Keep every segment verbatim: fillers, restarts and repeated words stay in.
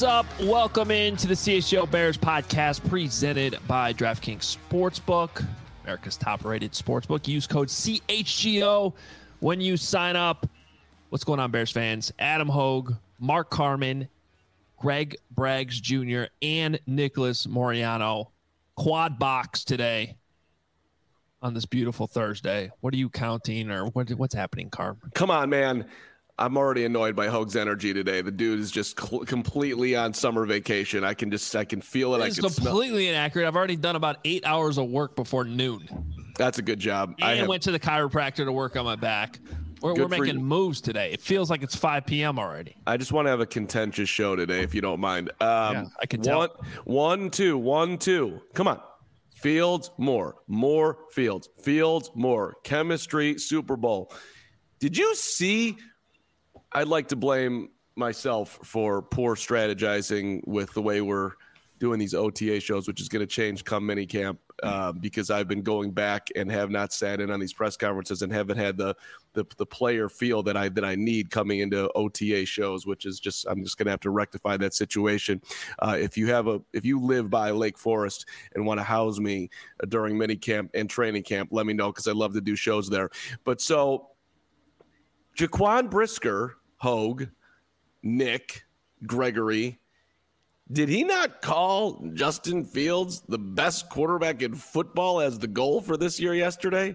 What's up? Welcome into the C H G O Bears podcast presented by DraftKings Sportsbook, America's top-rated sportsbook. Use code C H G O when you sign up. What's going on, Bears fans? Adam Hogue, Mark Carman, Greg Braggs Junior, and Nicholas Moriano. Quad box today on this beautiful Thursday. What are you counting, or what, what's happening, Carm? Come on, man. I'm already annoyed by Hogue's energy today. The dude is just cl- completely on summer vacation. I can just, I can feel it. It's I can completely smell- inaccurate. I've already done about eight hours of work before noon. That's a good job. And I have- went to the chiropractor to work on my back. We're, we're making you. moves today. It feels like it's five p.m. already. I just want to have a contentious show today, if you don't mind. Um, yeah, I can tell. One, one, two, one, two. Come on. Fields, more. More Fields. Fields, more. Chemistry, Super Bowl. Did you see... I'd like to blame myself for poor strategizing with the way we're doing these O T A shows, which is going to change come minicamp, uh, because I've been going back and have not sat in on these press conferences and haven't had the the, the player feel that I that I need coming into O T A shows, which is just I'm just going to have to rectify that situation. Uh, if you have a if you live by Lake Forest and want to house me during minicamp and training camp, let me know because I love to do shows there. But so Jaquan Brisker, Hogue, Nick, Gregory, did he not call Justin Fields the best quarterback in football as the goal for this year yesterday?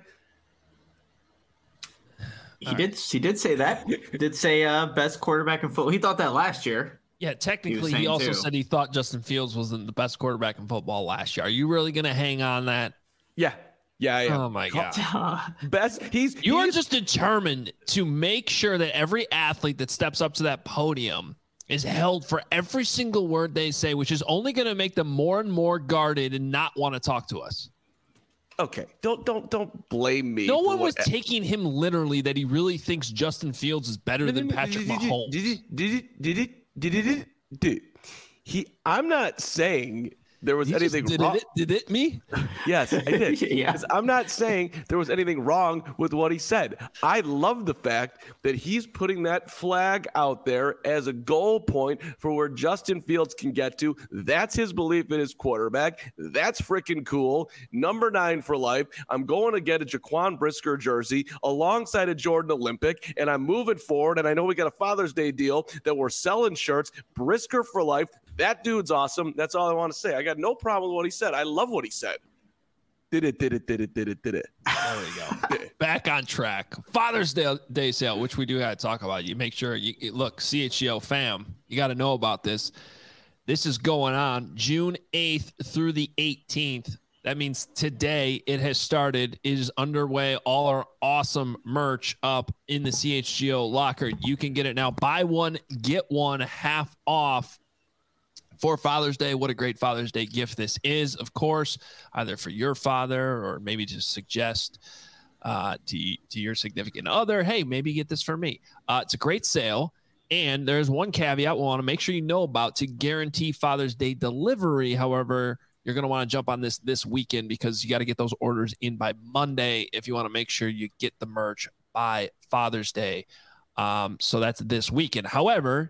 He did. He did say that. He did say uh, best quarterback in football. He thought that last year. Yeah, technically, he, he also too. said he thought Justin Fields was the best quarterback in football last year. Are you really going to hang on that? Yeah. Yeah, yeah. Oh my God. Best. He's You he's, are just determined to make sure that every athlete that steps up to that podium is held for every single word they say, which is only going to make them more and more guarded and not want to talk to us. Okay. Don't don't don't blame me. No one what, was taking him literally that he really thinks Justin Fields is better than Patrick Mahomes. Did it? Did it? Did it? Did it? Did it? Did he? I'm not saying there was He anything did wrong. It, did it me? Yes, I did. Yeah. I'm not saying there was anything wrong with what he said. I love the fact that he's putting that flag out there as a goal point for where Justin Fields can get to. That's his belief in his quarterback. That's freaking cool. Number nine for life. I'm going to get a Jaquan Brisker jersey alongside a Jordan Olympic, and I'm moving forward. And I know we got a Father's Day deal that we're selling shirts. Brisker for life. That dude's awesome. That's all I want to say. I got no problem with what he said. I love what he said. Did it, did it, did it, did it, did it. There we go. Back on track. Father's Day, Day sale, which we do got to talk about. You make sure you look, C H G O fam, you got to know about this. This is going on June eighth through the eighteenth. That means today it has started. It is underway. All our awesome merch up in the C H G O locker. You can get it now. Buy one, get one half off. For Father's Day. What a great Father's Day gift this is, of course, either for your father or maybe to suggest uh, to, to your significant other, hey, maybe get this for me. Uh, it's a great sale. And there's one caveat we want to make sure you know about to guarantee Father's Day delivery. However, you're going to want to jump on this this weekend because you got to get those orders in by Monday if you want to make sure you get the merch by Father's Day. Um, so that's this weekend. However,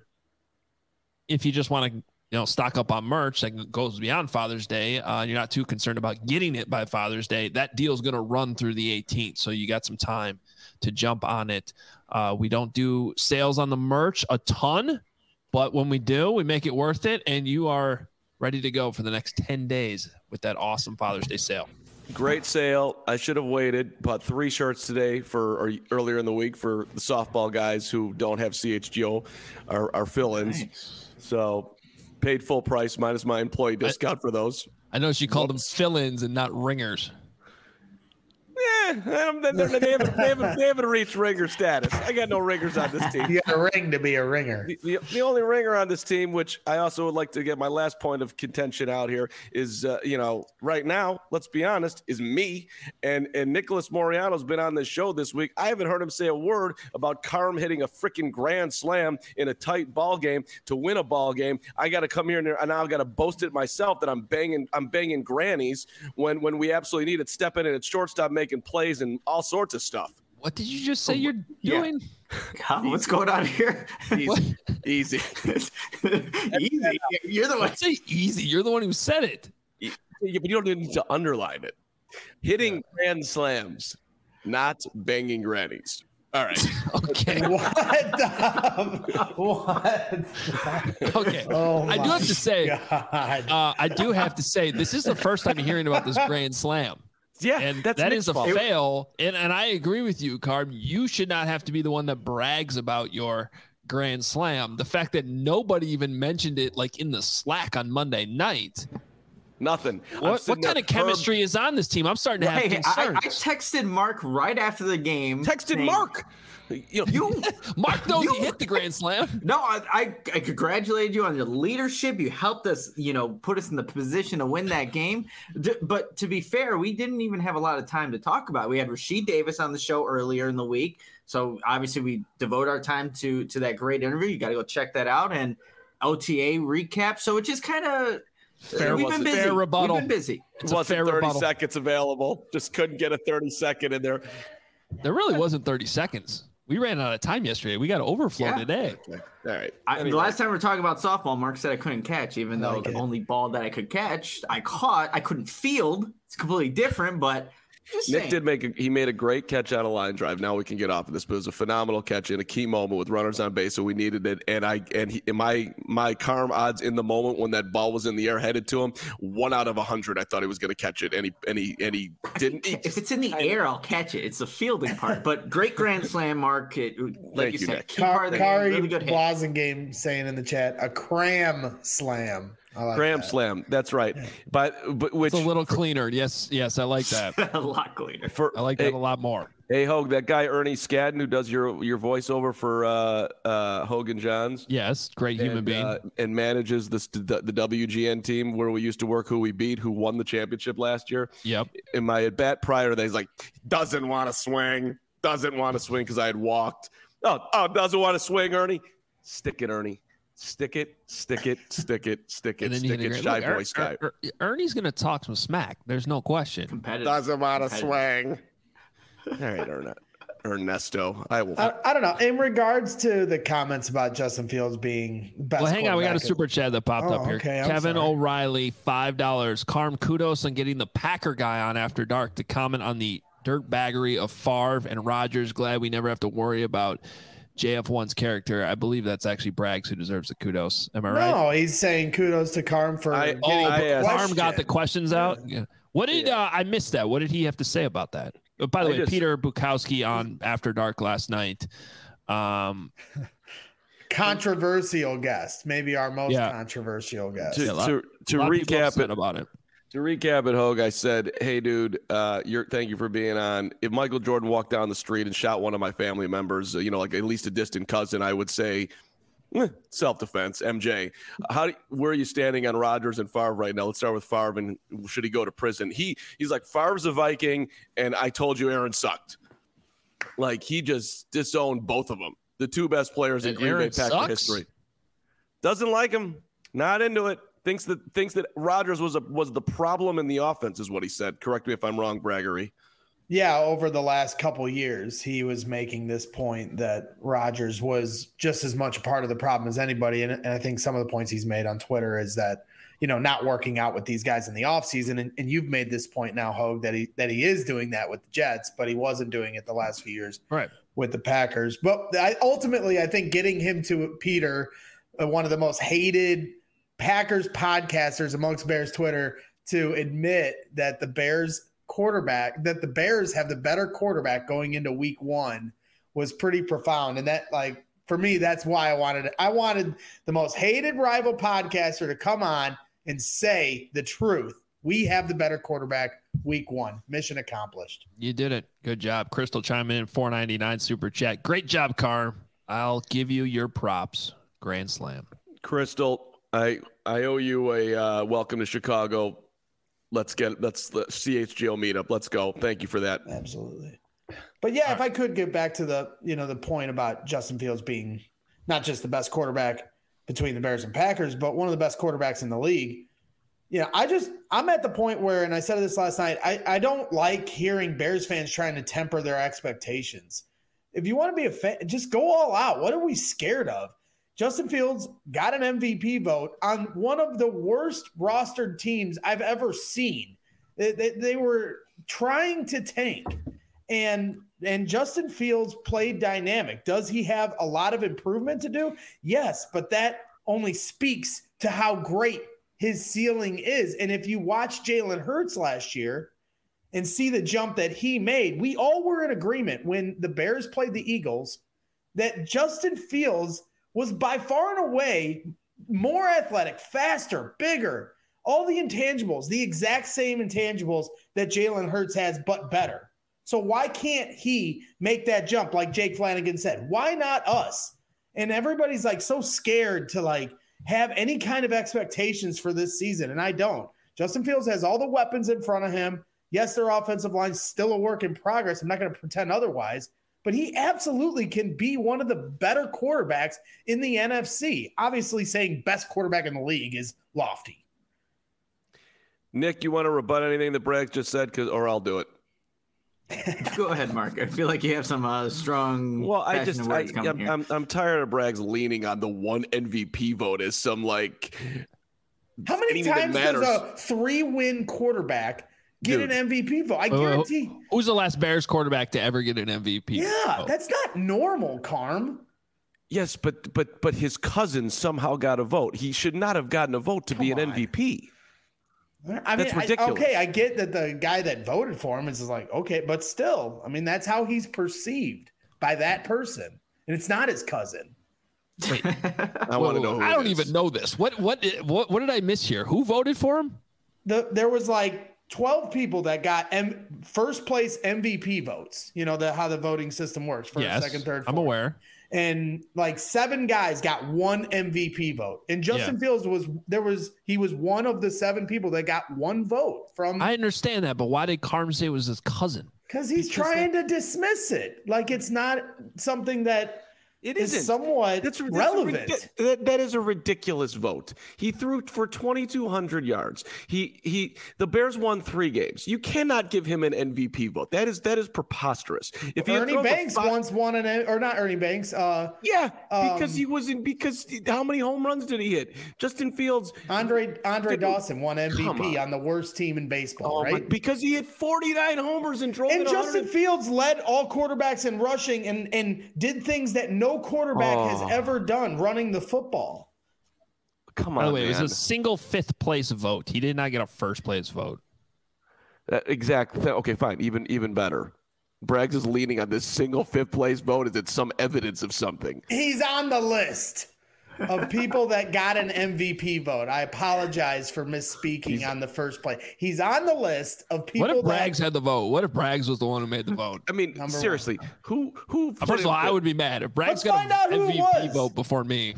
if you just want to you know, stock up on merch that goes beyond Father's Day. Uh, you're not too concerned about getting it by Father's Day. That deal is going to run through the eighteenth, so you got some time to jump on it. Uh, we don't do sales on the merch a ton, but when we do, we make it worth it, and you are ready to go for the next ten days with that awesome Father's Day sale. Great sale. I should have waited. Bought three shirts today for or earlier in the week for the softball guys who don't have C H G O, our, our fill-ins. Nice. So paid full price minus my employee discount I, for those. I know she called Whoops. them fill-ins and not ringers. Yeah, they haven't, they, haven't, they, haven't, they haven't reached ringer status. I got no ringers on this team. You got a ring to be a ringer. The, the, the only ringer on this team, which I also would like to get my last point of contention out here, is, uh, you know, right now, let's be honest, is me. And, and Nicholas Moriano's been on this show this week. I haven't heard him say a word about Carm hitting a freaking grand slam in a tight ball game to win a ball game. I got to come here and, and now I got to boast it myself that I'm banging I'm banging grannies when, when we absolutely need it. Step in and it's shortstop making plays and all sorts of stuff. What did you just say you're doing? Yeah. What's going on here? Easy. Easy. Easy. You're the one. Say easy. You're the one who said it. Yeah, but you don't need to underline it. Hitting yeah. grand slams, not banging grannies. All right. Okay. What? Um, what? Okay. Oh I do have to say, God. uh, I do have to say, this is the first time hearing about this grand slam. Yeah, and that's that Nick's is a fault. fail. And and I agree with you, Carb. You should not have to be the one that brags about your grand slam. The fact that nobody even mentioned it, like in the Slack on Monday night. Nothing. What, what kind of chemistry Herb. is on this team? I'm starting to have hey, concerns. I, I texted Mark right after the game. Texted saying, Mark. You, you Mark knows you, he hit the grand slam. No, I, I I congratulated you on your leadership. You helped us, you know, put us in the position to win that game. D- but to be fair, we didn't even have a lot of time to talk about it. We had Rasheed Davis on the show earlier in the week, so obviously we devote our time to to that great interview. You got to go check that out, and O T A recap. So it just kind of fair, we've been busy. Fair rebuttal. We've been busy. It wasn't fair thirty rebuttal. seconds available. Just couldn't get a thirty second in there. There really wasn't thirty seconds. We ran out of time yesterday. We got to overflow yeah. today. Okay. All right. I, anyway. The last time we were talking about softball, Mark said I couldn't catch, even though like the it. only ball that I could catch, I caught. I couldn't field. It's completely different, but just Nick saying. did make a, he made a great catch on a line drive. Now we can get off of this, but it was a phenomenal catch in a key moment with runners on base, so we needed it. And I and he, my my Carm odds in the moment when that ball was in the air headed to him, one out of a hundred, I thought he was going to catch it, and he and he and he didn't. He If it's in the air, I'll catch it. It's the fielding part. But great grand slam, Mark. It, like Thank you you, said, Nick. key part of the game. Kari Really good hit. Blasingame saying in the chat, a cram slam. I like Cram that. slam. That's right. But but which It's a little cleaner. Yes, yes, I like that. A lot cleaner. for I like that hey, a lot more. hey Hogue, that guy Ernie Skadden who does your your voiceover for uh, uh, Hogan Johns. Yes, great human and, being. uh, and manages this, the the W G N team where we used to work, who we beat, who won the championship last year. Yep. In my at bat prior to that, he's like, doesn't want to swing, doesn't want to swing because I had walked. Oh, oh, doesn't want to swing, Ernie. Stick it, Ernie. Stick it, stick it, stick it, stick it, And then you stick hit it, a shy great- boy Look, sky. Er- Er- Ernie's going to talk some smack. There's no question. Competitive. Doesn't want to Competitive. swing. All right, Ern- Ernesto. I will. I, I don't know. In regards to the comments about Justin Fields being best, Well, hang on. We got a quarterback- super chat that popped Oh, up here. okay, I'm Kevin sorry. O'Reilly, five dollars. Carm, kudos on getting the Packer guy on After Dark to comment on the dirtbaggery of Favre and Rodgers. Glad we never have to worry about J F one's character. I believe that's actually Braggs who deserves the kudos. Am I right? No, he's saying kudos to Carm for I- getting Oh, I the asked- Carm question. got the questions out. Yeah. What did uh, I missed that? What did he have to say about that? Uh, By the I way, just- Peter Bukowski on After Dark last night. Um, controversial guest, maybe our most Yeah. controversial guest. To, Yeah, a lot- to, a to lot of people recap upset it, about it. To recap it, Hogue, I said, "Hey, dude, uh, you're thank you for being on. If Michael Jordan walked down the street and shot one of my family members, uh, you know, like at least a distant cousin, I would say, eh, self-defense. M J, how do, where are you standing on Rodgers and Favre right now? Let's start with Favre, and should he go to prison? He he's like Favre's a Viking, and I told you Aaron sucked. Like he just disowned both of them, the two best players in And Green Aaron Bay Packer sucks? history. Doesn't like him. Not into it. Thinks that thinks that Rodgers was a, was the problem in the offense, is what he said. Correct me if I'm wrong, Braggery. Yeah, over the last couple years, he was making this point that Rodgers was just as much a part of the problem as anybody. And, and I think some of the points he's made on Twitter is that, you know, not working out with these guys in the offseason. And, and you've made this point now, Hogue, that he that he is doing that with the Jets, but he wasn't doing it the last few years Right. with the Packers. But I, ultimately, I think getting him to Peter, uh, one of the most hated Packers podcasters amongst Bears Twitter, to admit that the Bears quarterback, that the Bears have the better quarterback going into week one, was pretty profound. And that, like, for me, that's why I wanted it. I wanted the most hated rival podcaster to come on and say the truth. We have the better quarterback week one. Mission accomplished. You did it. Good job. Crystal chime in, four ninety-nine super chat. Great job, Carm. I'll give you your props. Grand slam. Crystal, I I owe you a uh, welcome to Chicago. Let's get let's the C H G O meetup. Let's go. Thank you for that. Absolutely. But yeah, if I could get back to the, you know, the point about Justin Fields being not just the best quarterback between the Bears and Packers, but one of the best quarterbacks in the league. you know, I just I'm at the point where, and I said this last night, I, I don't like hearing Bears fans trying to temper their expectations. If you want to be a fan, just go all out. What are we scared of? Justin Fields got an M V P vote on one of the worst rostered teams I've ever seen. They, they, they were trying to tank, and and Justin Fields played dynamic. Does he have a lot of improvement to do? Yes, but that only speaks to how great his ceiling is. And if you watch Jalen Hurts last year and see the jump that he made, we all were in agreement when the Bears played the Eagles that Justin Fields was by far and away more athletic, faster, bigger, all the intangibles, the exact same intangibles that Jalen Hurts has, but better. So why can't he make that jump like Jake Flanagan said? Why not us? And everybody's like so scared to like have any kind of expectations for this season, and I don't. Justin Fields has all the weapons in front of him. Yes, their offensive line's still a work in progress. I'm not going to pretend otherwise, but he absolutely can be one of the better quarterbacks in the N F C. Obviously, saying best quarterback in the league is lofty. Nick, you want to rebut anything that Bragg just said, Cause, or I'll do it. Go ahead, Mark. I feel like you have some uh, strong. Well, I just, I, I'm, here. I'm, I'm tired of Bragg's leaning on the one M V P vote as some like. How many times does a three-win quarterback get Dude. an M V P vote? I guarantee. Uh, who's the last Bears quarterback to ever get an M V P? Yeah, vote? That's not normal, Carm. Yes, but but but his cousin somehow got a vote. He should not have gotten a vote to Come be an on. M V P. I mean, that's ridiculous. I, okay, I get that the guy that voted for him is like, okay, but still, I mean, that's how he's perceived by that person, and it's not his cousin. Wait, I want to know. Who I don't is. even know this. What, what, what, what did I miss here? Who voted for him? The there was like twelve people that got M, first place M V P votes. You know the how the voting system works: first, yes, second, third. Fourth. I'm aware. And like seven guys got one M V P vote. And Justin yeah. Fields was there was he was one of the seven people that got one vote from. I understand that, but why did Carm say it was his cousin? Because he's because trying they... to dismiss it. Like it's not something that it is isn't. somewhat that's, that's relevant. A, that, that is a ridiculous vote. He threw for twenty-two hundred yards. He he. The Bears won three games. You cannot give him an M V P vote. That is that is preposterous. If Ernie Banks five, once won an or not Ernie Banks. Uh, yeah, because um, he was in. Because how many home runs did he hit? Justin Fields. Andre Andre Dawson won M V P on. on the worst team in baseball, oh, right? Because he hit forty-nine homers and drove. And it Justin Fields led all quarterbacks in rushing and and did things that no. No quarterback oh. has ever done running the football. Come on, By the way, man. It was a single fifth place vote. He did not get a first place vote. Uh, exactly. Okay, fine. Even even better. Braggs is leaning on this single fifth place vote. Is it some evidence of something? He's on the list of people that got an M V P vote. I apologize for misspeaking He's, on the first play. He's on the list of people. What if that, Braggs had the vote? What if Braggs was the one who made the vote? I mean, Number seriously, one. who who? First of all, I would be mad if Braggs got an M V P vote before me.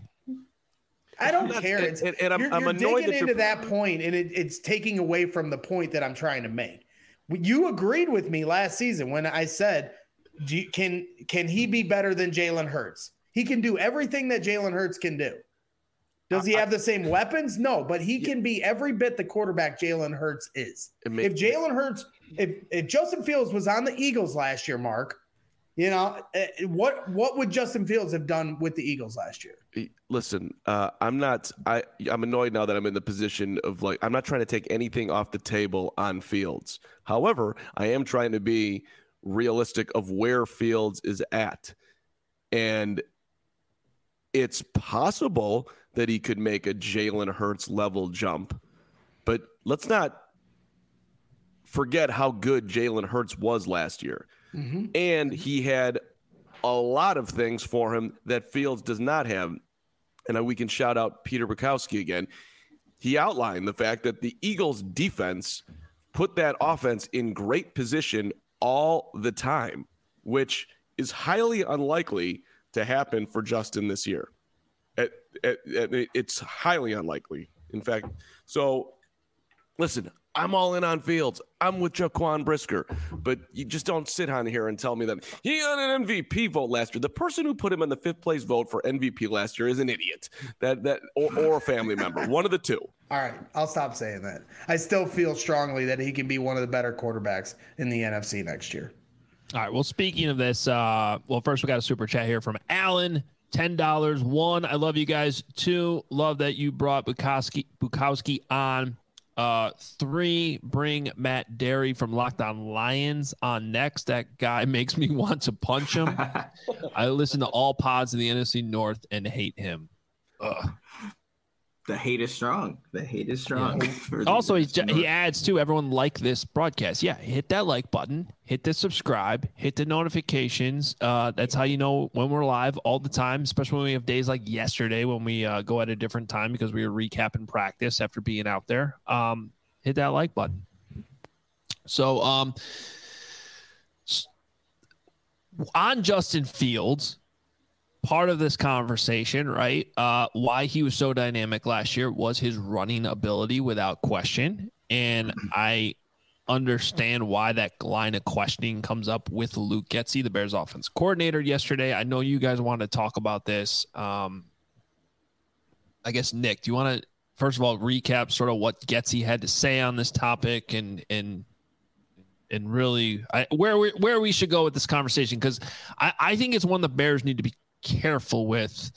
I don't care. It's, and, and I'm, you're, I'm you're annoyed digging that into that point, and it, it's taking away from the point that I'm trying to make. You agreed with me last season when I said, do you, "Can can he be better than Jalen Hurts? He can do everything that Jalen Hurts can do." Does he have the same weapons? No, but he can be every bit the quarterback Jalen Hurts is. If Jalen Hurts, if if Justin Fields was on the Eagles last year, Mark, you know, what what would Justin Fields have done with the Eagles last year? Listen, uh, I'm not. I I'm annoyed now that I'm in the position of like I'm not trying to take anything off the table on Fields. However, I am trying to be realistic of where Fields is at, and it's possible that he could make a Jalen Hurts level jump. But let's not forget how good Jalen Hurts was last year. Mm-hmm. And he had a lot of things for him that Fields does not have. And we can shout out Peter Bukowski again. He outlined the fact that the Eagles defense put that offense in great position all the time, which is highly unlikely to happen for Justin this year. At, at, at, it's highly unlikely, in fact. So listen, I'm all in on Fields. I'm with Jaquan Brisker, but you just don't sit on here and tell me that he got an M V P vote last year. The person who put him in the fifth place vote for M V P last year is an idiot. That that or, or a family member, one of the two. All right, I'll stop saying that. I still feel strongly that he can be one of the better quarterbacks in the N F C next year. All right. Well, speaking of this, uh, well, first we got a super chat here from Alan. ten dollars. One, I love you guys. Two, love that you brought Bukowski, Bukowski on. Uh, three, bring Matt Derry from Locked On Lions on next. That guy makes me want to punch him. I listen to all pods in the N F C North and hate him. Ugh. The hate is strong. The hate is strong. Yeah. Also, he, he adds to everyone like this broadcast. Yeah, hit that like button, hit the subscribe, hit the notifications. Uh, that's how you know when we're live all the time, especially when we have days like yesterday when we uh, go at a different time because we were recapping practice after being out there. Um, hit that like button. So um, on Justin Fields, part of this conversation, right? Uh, why he was so dynamic last year was his running ability without question. And I understand why that line of questioning comes up with Luke Getsy, the Bears offense coordinator, yesterday. I know you guys want to talk about this. Um, I guess, Nick, do you want to, first of all, recap sort of what Getsy had to say on this topic and, and, and really I, where we, where we should go with this conversation? Because I, I think it's one the Bears need to be careful with,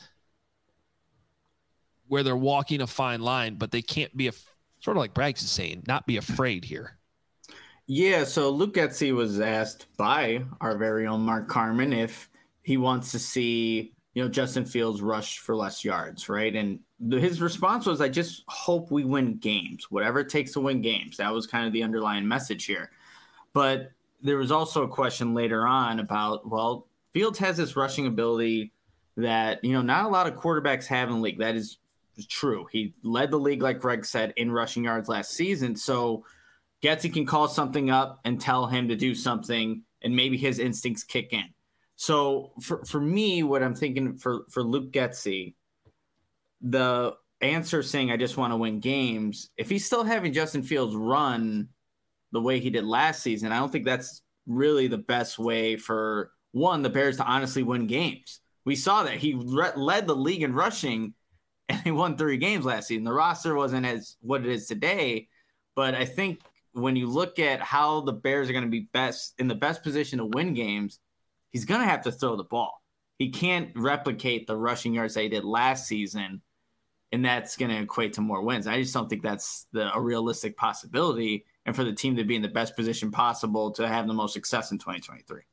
where they're walking a fine line, but they can't be a sort of like Braggs is saying, not be afraid here. Yeah. So Luke Getsy was asked by our very own Mark Carman if he wants to see, you know, Justin Fields rush for less yards. Right. And the, his response was, I just hope we win games, whatever it takes to win games. That was kind of the underlying message here. But there was also a question later on about, well, Fields has this rushing ability that, you know, not a lot of quarterbacks have in the league. That is true. He led the league, like Greg said, in rushing yards last season. So Getsy can call something up and tell him to do something, and maybe his instincts kick in. So for, for me, what I'm thinking for, for Luke Getsy, the answer saying, I just want to win games, if he's still having Justin Fields run the way he did last season, I don't think that's really the best way for – one, the Bears to honestly win games. We saw that he re- led the league in rushing, and he won three games last season. The roster wasn't as what it is today, but I think when you look at how the Bears are going to be best in the best position to win games, he's going to have to throw the ball. He can't replicate the rushing yards that he did last season, and that's going to equate to more wins. I just don't think that's the, a realistic possibility, and for the team to be in the best position possible to have the most success in twenty twenty-three.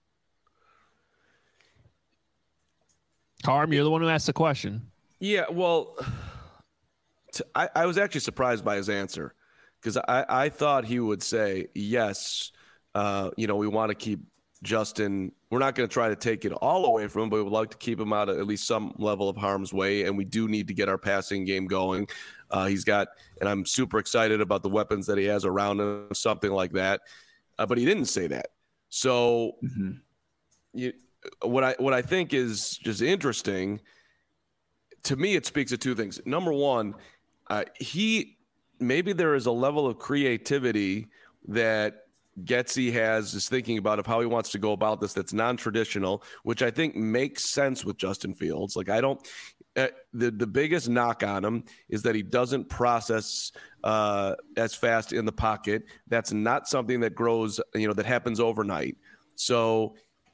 Carm, you're the one who asked the question. Yeah, well, t- I, I was actually surprised by his answer because I, I thought he would say, yes, uh, you know, we want to keep Justin. We're not going to try to take it all away from him, but we would like to keep him out of at least some level of harm's way, and we do need to get our passing game going. Uh, he's got, and I'm super excited about the weapons that he has around him, something like that. Uh, but he didn't say that. So mm-hmm. you What I what I think is just interesting, to me, it speaks of two things. Number one, uh, he maybe there is a level of creativity that Getsy has is thinking about of how he wants to go about this that's non-traditional, which I think makes sense with Justin Fields. Like I don't uh, the the biggest knock on him is that he doesn't process uh, as fast in the pocket. That's not something that grows, you know, that happens overnight. So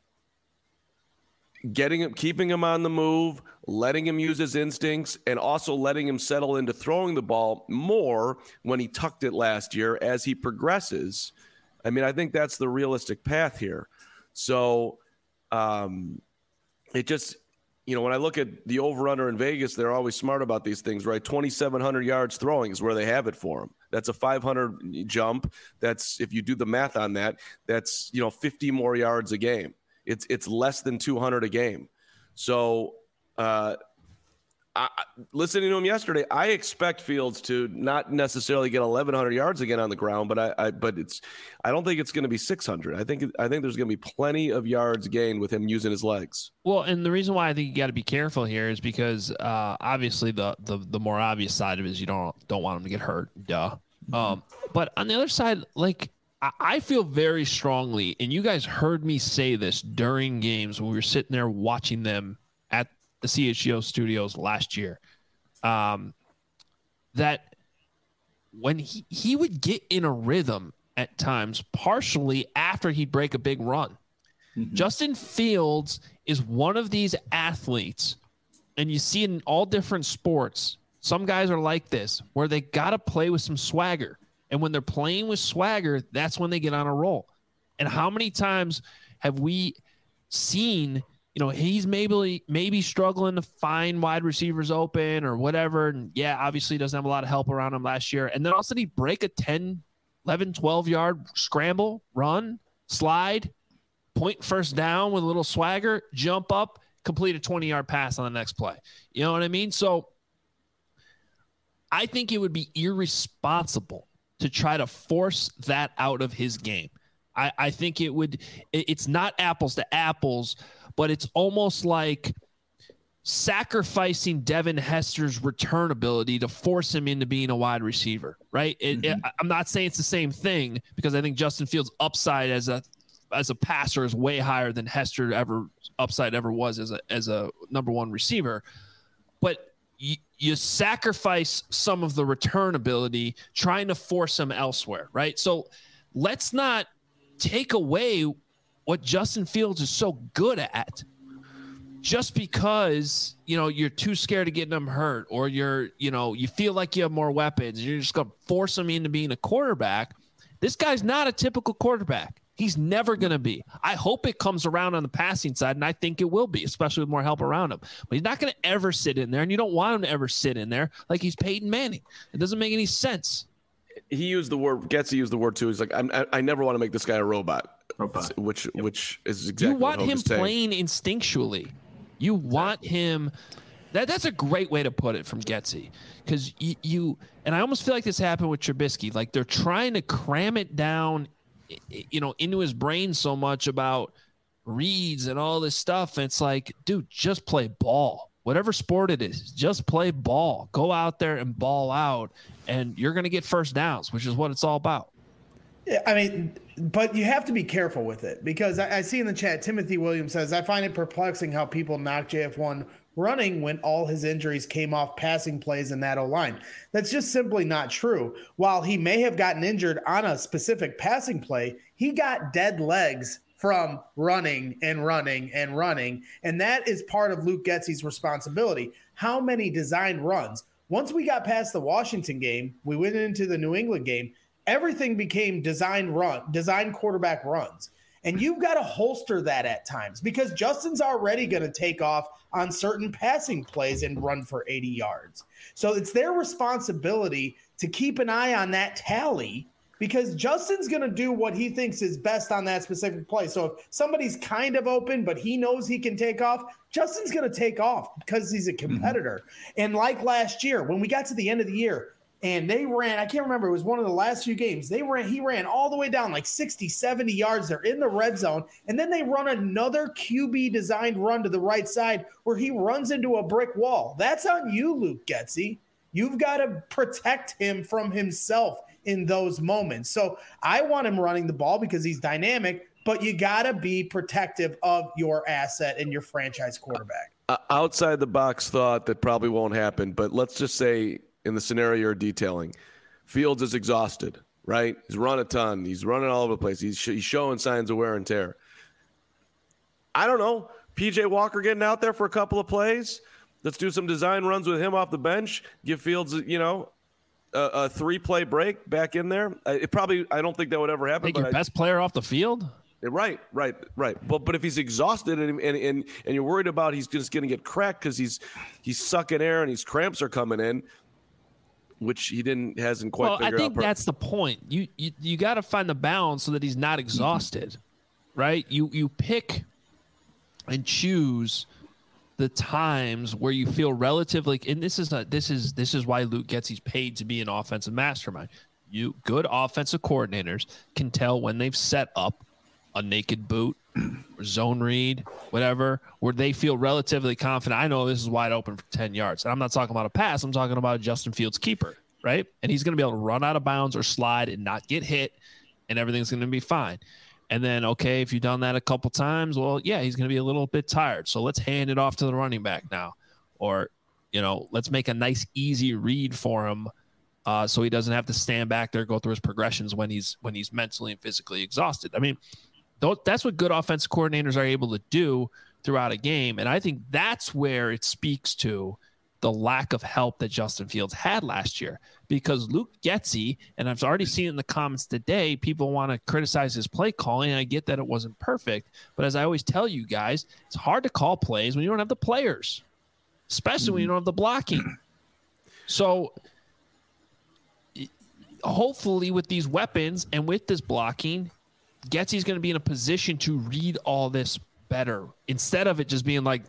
getting him, keeping him on the move, letting him use his instincts, and also letting him settle into throwing the ball more when he tucked it last year as he progresses. I mean, I think that's the realistic path here. So um, it just, you know, when I look at the over-under in Vegas, they're always smart about these things, right? twenty-seven hundred yards throwing is where they have it for him. That's a five hundred jump. That's, if you do the math on that, that's, you know, fifty more yards a game. It's it's less than two hundred a game. So uh, I, listening to him yesterday, I expect Fields to not necessarily get eleven hundred yards again on the ground, but I, I but it's I don't think it's going to be six hundred. I think I think there's going to be plenty of yards gained with him using his legs. Well, and the reason why I think you got to be careful here is because uh, obviously the, the the more obvious side of it is you don't don't want him to get hurt. Duh. Um, but on the other side, like I, I feel very strongly, and you guys heard me say this during games when we were sitting there watching them at the C H G O studios last year, um, that when he, he would get in a rhythm at times, partially after he'd break a big run. Mm-hmm. Justin Fields is one of these athletes, and you see it in all different sports. Some guys are like this, where they got to play with some swagger. And when they're playing with swagger, that's when they get on a roll. And how many times have we seen, you know, he's maybe maybe struggling to find wide receivers open or whatever. And yeah, obviously he doesn't have a lot of help around him last year. And then all of a sudden he break a ten, eleven, twelve yard scramble, run, slide, point first down with a little swagger, jump up, complete a twenty yard pass on the next play. You know what I mean? So I think it would be irresponsible to try to force that out of his game. I, I think it would, it, it's not apples to apples, but it's almost like sacrificing Devin Hester's return ability to force him into being a wide receiver, right? It, mm-hmm. it, I'm not saying it's the same thing, because I think Justin Fields' upside as a as a passer is way higher than Hester ever upside ever was as a as a number one receiver. But you, you sacrifice some of the return ability trying to force him elsewhere, right? So let's not take away what Justin Fields is so good at just because, you know, you're too scared of getting him hurt, or you're, you know, you feel like you have more weapons. You're just going to force him into being a quarterback. This guy's not a typical quarterback. He's never going to be. I hope it comes around on the passing side, and I think it will be, especially with more help around him. But he's not going to ever sit in there, and you don't want him to ever sit in there like he's Peyton Manning. It doesn't make any sense. He used the word, Getsy used the word too. He's like, I'm, I, I never want to make this guy a robot, robot. which yep. which is exactly you want what him playing saying. Instinctually. You want him. That that's a great way to put it from Getsy, because you, you and I almost feel like this happened with Trubisky. Like they're trying to cram it down, you know, into his brain so much about reads and all this stuff. And it's like, dude, just play ball. Whatever sport it is, just play ball. Go out there and ball out, and you're going to get first downs, which is what it's all about. Yeah, I mean, but you have to be careful with it, because I, I see in the chat, Timothy Williams says, I find it perplexing how people knock J F one running when all his injuries came off passing plays in that O-line. That's just simply not true. While he may have gotten injured on a specific passing play, he got dead legs from running and running and running. And that is part of Luke Getsy's responsibility. How many designed runs? Once we got past the Washington game, we went into the New England game, everything became design run, design quarterback runs. And you've got to holster that at times, because Justin's already going to take off on certain passing plays and run for eighty yards. So it's their responsibility to keep an eye on that tally, because Justin's going to do what he thinks is best on that specific play. So if somebody's kind of open, but he knows he can take off, Justin's going to take off because he's a competitor. Mm-hmm. And like last year, when we got to the end of the year, and they ran, I can't remember, it was one of the last few games. They ran, he ran all the way down like sixty, seventy yards. They're in the red zone. And then they run another Q B designed run to the right side where he runs into a brick wall. That's on you, Luke Getsy. You've got to protect him from himself in those moments. So I want him running the ball because he's dynamic, but you got to be protective of your asset and your franchise quarterback. Uh, outside the box thought that probably won't happen, but let's just say, in the scenario you're detailing, Fields is exhausted, right? He's run a ton. He's running all over the place. He's, sh- he's showing signs of wear and tear. I don't know. P J Walker getting out there for a couple of plays. Let's do some design runs with him off the bench. Give Fields, you know, a, a three-play break back in there. It probably, I don't think that would ever happen. Take your I, best player off the field? Right, right, right. But but if he's exhausted and and and, and you're worried about he's just going to get cracked because he's he's sucking air and his cramps are coming in, which he didn't hasn't quite well, figured out. I think per- that's the point. You you, you got to find the balance so that he's not exhausted, mm-hmm. right? You you pick and choose the times where you feel relatively, and this is not this is this is why Luke Getsy's paid to be an offensive mastermind. You good offensive coordinators can tell when they've set up a naked boot, or zone read, whatever, where they feel relatively confident. I know this is wide open for ten yards. And I'm not talking about a pass. I'm talking about Justin Fields' keeper, right? And he's going to be able to run out of bounds or slide and not get hit, and everything's going to be fine. And then, okay, if you've done that a couple times, well, yeah, he's going to be a little bit tired. So let's hand it off to the running back now. Or, you know, let's make a nice, easy read for him uh, so he doesn't have to stand back there, go through his progressions when he's when he's mentally and physically exhausted. I mean, that's what good offensive coordinators are able to do throughout a game. And I think that's where it speaks to the lack of help that Justin Fields had last year, because Luke Getsy, and I've already seen it in the comments today, people want to criticize his play calling, and I get that it wasn't perfect. But as I always tell you guys, it's hard to call plays when you don't have the players, especially when you don't have the blocking. So hopefully with these weapons and with this blocking, Getsy's going to be in a position to read all this better, instead of it just being like,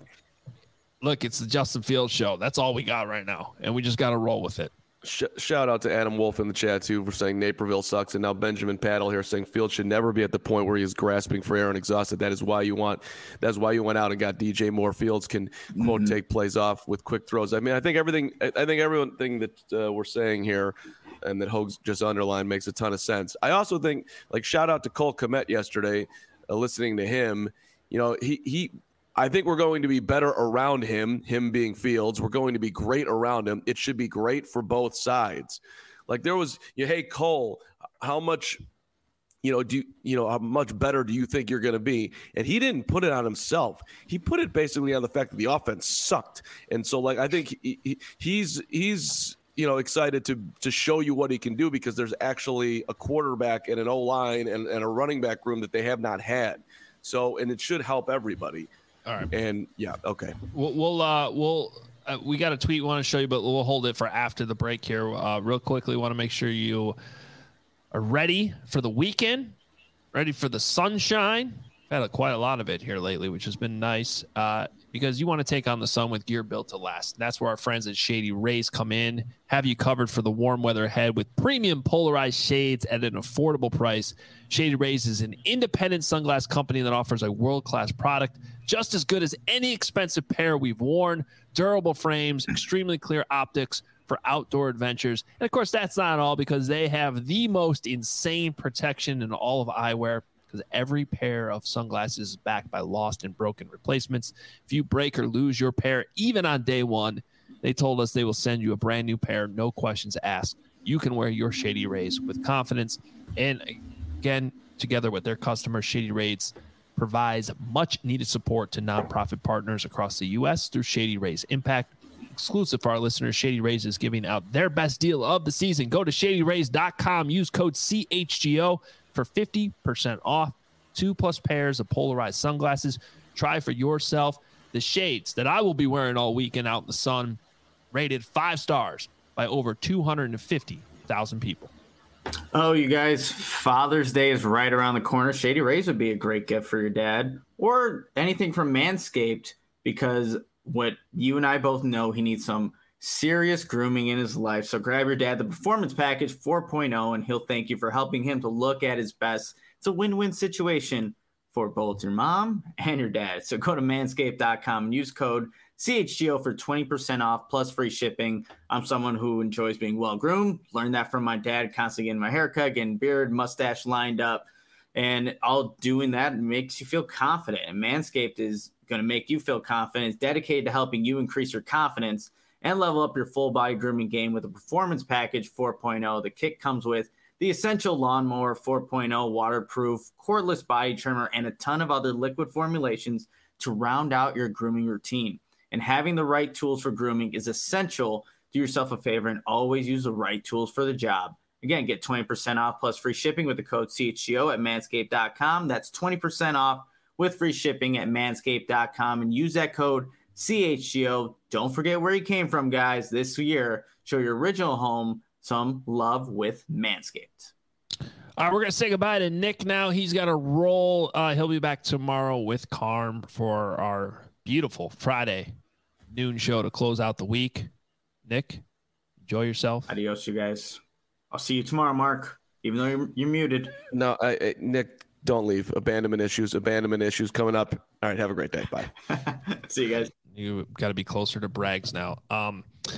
look, it's the Justin Fields show. That's all we got right now, and we just got to roll with it. Sh- shout out to Adam Wolf in the chat, too, for saying Naperville sucks. And now Benjamin Paddle here saying Fields should never be at the point where he is grasping for air and exhausted. That is why you want – that's why you went out and got D J Moore. Fields can, quote, mm-hmm. take plays off with quick throws. I mean, I think everything – I think everything that uh, we're saying here and that Hogs just underlined makes a ton of sense. I also think, like, shout out to Cole Kmet yesterday, uh, listening to him. You know, he he – I think we're going to be better around him, him being Fields. We're going to be great around him. It should be great for both sides. Like there was, you know, hey, Cole, how much, you know, do you, you know, how much better do you think you're going to be? And he didn't put it on himself. He put it basically on the fact that the offense sucked. And so, like, I think he, he, he's he's you know excited to to show you what he can do, because there's actually a quarterback and an O-line and, and a running back room that they have not had. So, and it should help everybody. All right. And yeah, okay. We'll, we'll, uh, we'll, uh, we got a tweet we want to show you, but we'll hold it for after the break here. Uh, real quickly, want to make sure you are ready for the weekend, ready for the sunshine. I've had a, quite a lot of it here lately, which has been nice, uh, because you want to take on the sun with gear built to last. That's where our friends at Shady Rays come in, have you covered for the warm weather ahead with premium polarized shades at an affordable price. Shady Rays is an independent sunglass company that offers a world-class product just as good as any expensive pair we've worn. Durable frames, extremely clear optics for outdoor adventures. And of course, that's not all, because they have the most insane protection in all of eyewear, because every pair of sunglasses is backed by lost and broken replacements. If you break or lose your pair, even on day one, they told us they will send you a brand new pair, no questions asked. You can wear your Shady Rays with confidence. And again, together with their customers, Shady Rays provides much needed support to nonprofit partners across the U S through Shady Rays Impact. Exclusive for our listeners, Shady Rays is giving out their best deal of the season. Go to shady rays dot com, use code C H G O for fifty percent off. Two plus pairs of polarized sunglasses. Try for yourself the shades that I will be wearing all weekend out in the sun, rated five stars by over two hundred fifty thousand people. Oh, you guys, Father's Day is right around the corner. Shady Rays would be a great gift for your dad, or anything from Manscaped, because what you and I both know, he needs some serious grooming in his life. So grab your dad the Performance Package four point oh, and he'll thank you for helping him to look at his best. It's a win-win situation for both your mom and your dad. So go to manscaped dot com and use code C H G O for twenty percent off plus free shipping. I'm someone who enjoys being well-groomed. Learned that from my dad, constantly getting my haircut, getting beard, mustache lined up. And all doing that makes you feel confident. And Manscaped is going to make you feel confident. It's dedicated to helping you increase your confidence and level up your full-body grooming game with a Performance Package four point oh. The kit comes with the Essential Lawnmower four point oh, waterproof, cordless body trimmer, and a ton of other liquid formulations to round out your grooming routine. And having the right tools for grooming is essential. Do yourself a favor and always use the right tools for the job. Again, get twenty percent off plus free shipping with the code C H G O at manscaped dot com. That's twenty percent off with free shipping at manscaped dot com, and use that code C H G O. Don't forget where you came from, guys. This year, show your original home some love with Manscaped. All right, we're going to say goodbye to Nick now. He's got a roll. Uh, he'll be back tomorrow with Carm for our beautiful Friday noon show to close out the week. Nick, enjoy yourself. Adios, you guys. I'll see you tomorrow, Mark, even though you're, you're muted. No, I, I, Nick, don't leave. Abandonment issues, abandonment issues coming up. All right, have a great day. Bye. See you guys. You got to be closer to Braggs now. Um,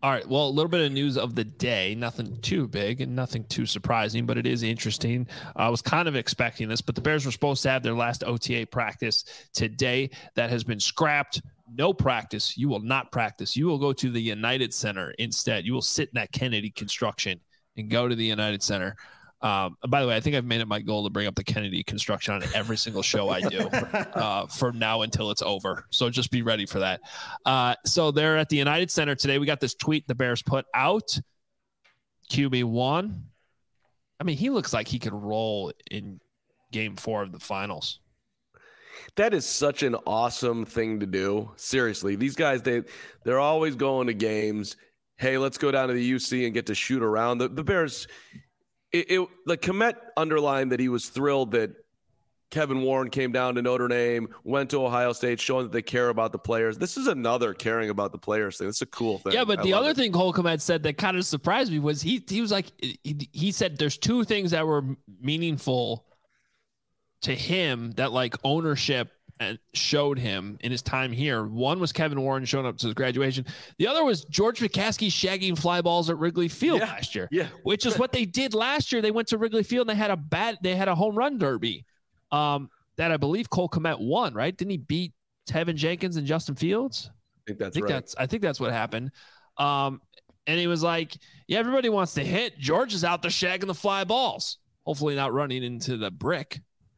All right. Well, a little bit of news of the day. Nothing too big and nothing too surprising, but it is interesting. I was kind of expecting this, but the Bears were supposed to have their last O T A practice today. That has been scrapped. No practice. You will not practice. You will go to the United Center instead. You will sit in that Kennedy construction and go to the United Center. Um, by the way, I think I've made it my goal to bring up the Kennedy construction on every single show I do uh, from now until it's over. So just be ready for that. Uh, so they're at the United Center today. We got this tweet the Bears put out. Q B one. I mean, he looks like he could roll in game four of the finals. That is such an awesome thing to do. Seriously, these guys, they, they're always going to games. Hey, let's go down to the U C and get to shoot around. The, the Bears... It, it like Komet underlined that he was thrilled that Kevin Warren came down to Notre Dame, went to Ohio State, showing that they care about the players. This is another caring about the players thing. It's a cool thing. Yeah, but I the other it. thing Cole Komet said that kind of surprised me was he he was like he, he said there's two things that were meaningful to him that like ownership and showed him in his time here. One was Kevin Warren showing up to his graduation. The other was George McCaskey shagging fly balls at Wrigley Field yeah, last year, yeah. which is what they did last year. They went to Wrigley Field and they had a bad, they had a home run derby um, that I believe Cole Komet won, right? Didn't he beat Tevin Jenkins and Justin Fields? I think that's I think right. That's, I think that's what happened. Um, and he was like, yeah, everybody wants to hit. George is out there shagging the fly balls, hopefully not running into the brick.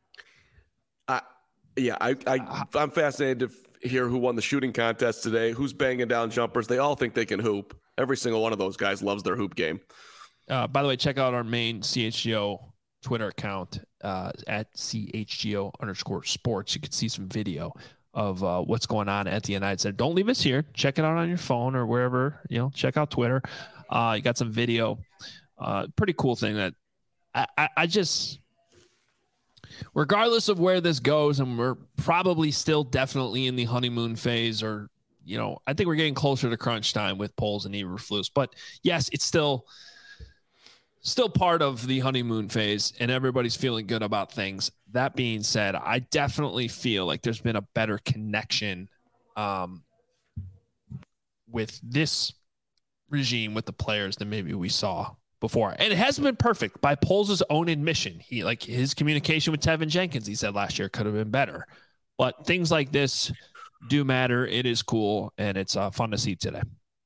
I, Yeah, I, I, I'm fascinated to f- hear who won the shooting contest today, who's banging down jumpers. They all think they can hoop. Every single one of those guys loves their hoop game. Uh, by the way, check out our main C H G O Twitter account uh, at C H G O underscore sports. You can see some video of uh, what's going on at the United Center. Don't leave us here. Check it out on your phone or wherever, you know, check out Twitter. Uh, you got some video. Uh, pretty cool thing that I, I, I just... Regardless of where this goes, and we're probably still definitely in the honeymoon phase, or, you know, I think we're getting closer to crunch time with Poles and Eberflus. But yes, it's still still part of the honeymoon phase, and everybody's feeling good about things. That being said, I definitely feel like there's been a better connection um, with this regime with the players than maybe we saw before. And it hasn't been perfect by Poles' own admission. He like his communication with Tevin Jenkins, he said last year, could have been better. But things like this do matter. It is cool, and it's uh, fun to see today.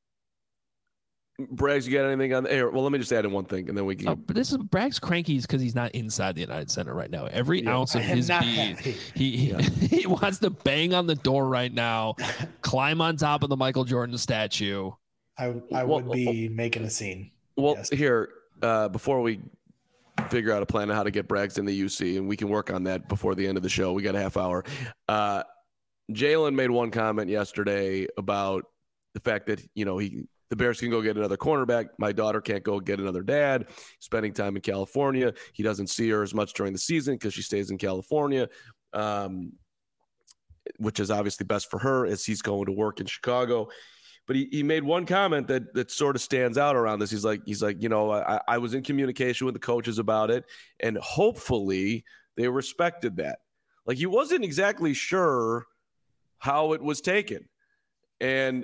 Braggs, you got anything on the air? Well, let me just add in one thing, and then we can. Oh, but this is Bragg's cranky because he's not inside the United Center right now. Every yeah, ounce of his being, he yeah. he wants to bang on the door right now, climb on top of the Michael Jordan statue. I I well, would be well, making a scene. Well, yes. here, uh, before we figure out a plan on how to get Braggs in the U C, and we can work on that before the end of the show. We got a half hour. Uh, Jalen made one comment yesterday about the fact that, you know, he the Bears can go get another cornerback. My daughter can't go get another dad. Spending time in California. He doesn't see her as much during the season because she stays in California, um, which is obviously best for her as he's going to work in Chicago. But he, he made one comment that that sort of stands out around this. He's like, he's like, you know, I, I was in communication with the coaches about it, and hopefully they respected that. Like, he wasn't exactly sure how it was taken. And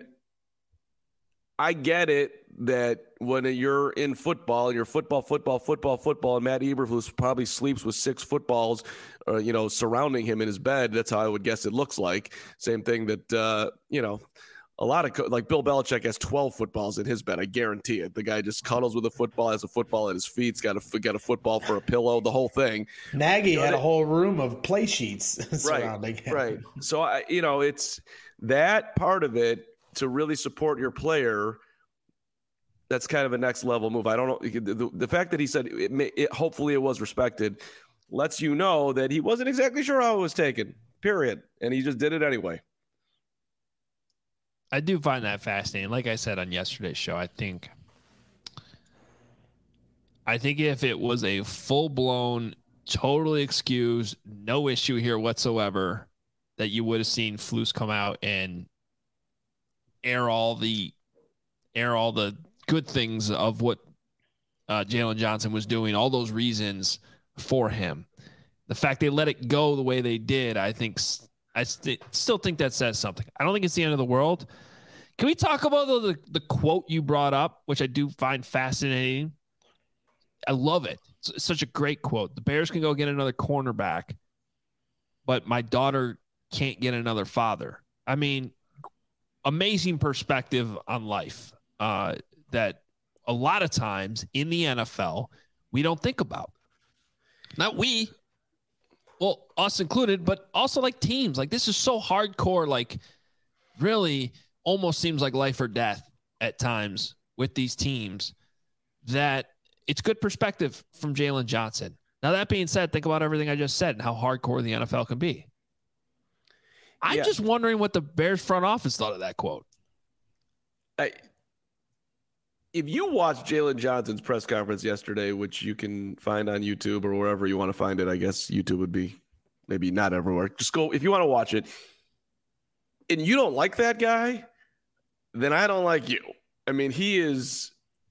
I get it that when you're in football, you're football, football, football, football, and Matt Eberflus probably sleeps with six footballs, uh, you know, surrounding him in his bed. That's how I would guess it looks like. Same thing that, uh, you know, a lot of co- like Bill Belichick has twelve footballs in his bed. I guarantee it. The guy just cuddles with a football, has a football at his feet. He's got a got a football for a pillow. The whole thing. Nagy you know, had they, a whole room of play sheets surrounding right, him. Right. So I, you know, it's that part of it to really support your player. That's kind of a next level move. I don't know the, the fact that he said it, may, it. Hopefully, it was respected. Lets you know that he wasn't exactly sure how it was taken. Period, and he just did it anyway. I do find that fascinating. Like I said on yesterday's show, I think I think if it was a full-blown, totally excused, no issue here whatsoever, that you would have seen Flus come out and air all the air all the good things of what uh, Jalen Johnson was doing, all those reasons for him. The fact they let it go the way they did, I think – I st- still think that says something. I don't think it's the end of the world. Can we talk about the, the the quote you brought up, which I do find fascinating? I love it. It's such a great quote. The Bears can go get another cornerback, but my daughter can't get another father. I mean, amazing perspective on life uh, that a lot of times in the N F L, we don't think about. Not we, well, us included, but also like teams. Like this is so hardcore, like really almost seems like life or death at times with these teams that it's good perspective from Jaylon Johnson. Now, that being said, think about everything I just said and how hardcore the N F L can be. I'm yeah. just wondering what the Bears front office thought of that quote. I, if you watch Jaylon Johnson's press conference yesterday, which you can find on YouTube or wherever you want to find it, I guess YouTube would be maybe not everywhere. Just go if you want to watch it. And you don't like that guy, then I don't like you. I mean, he is.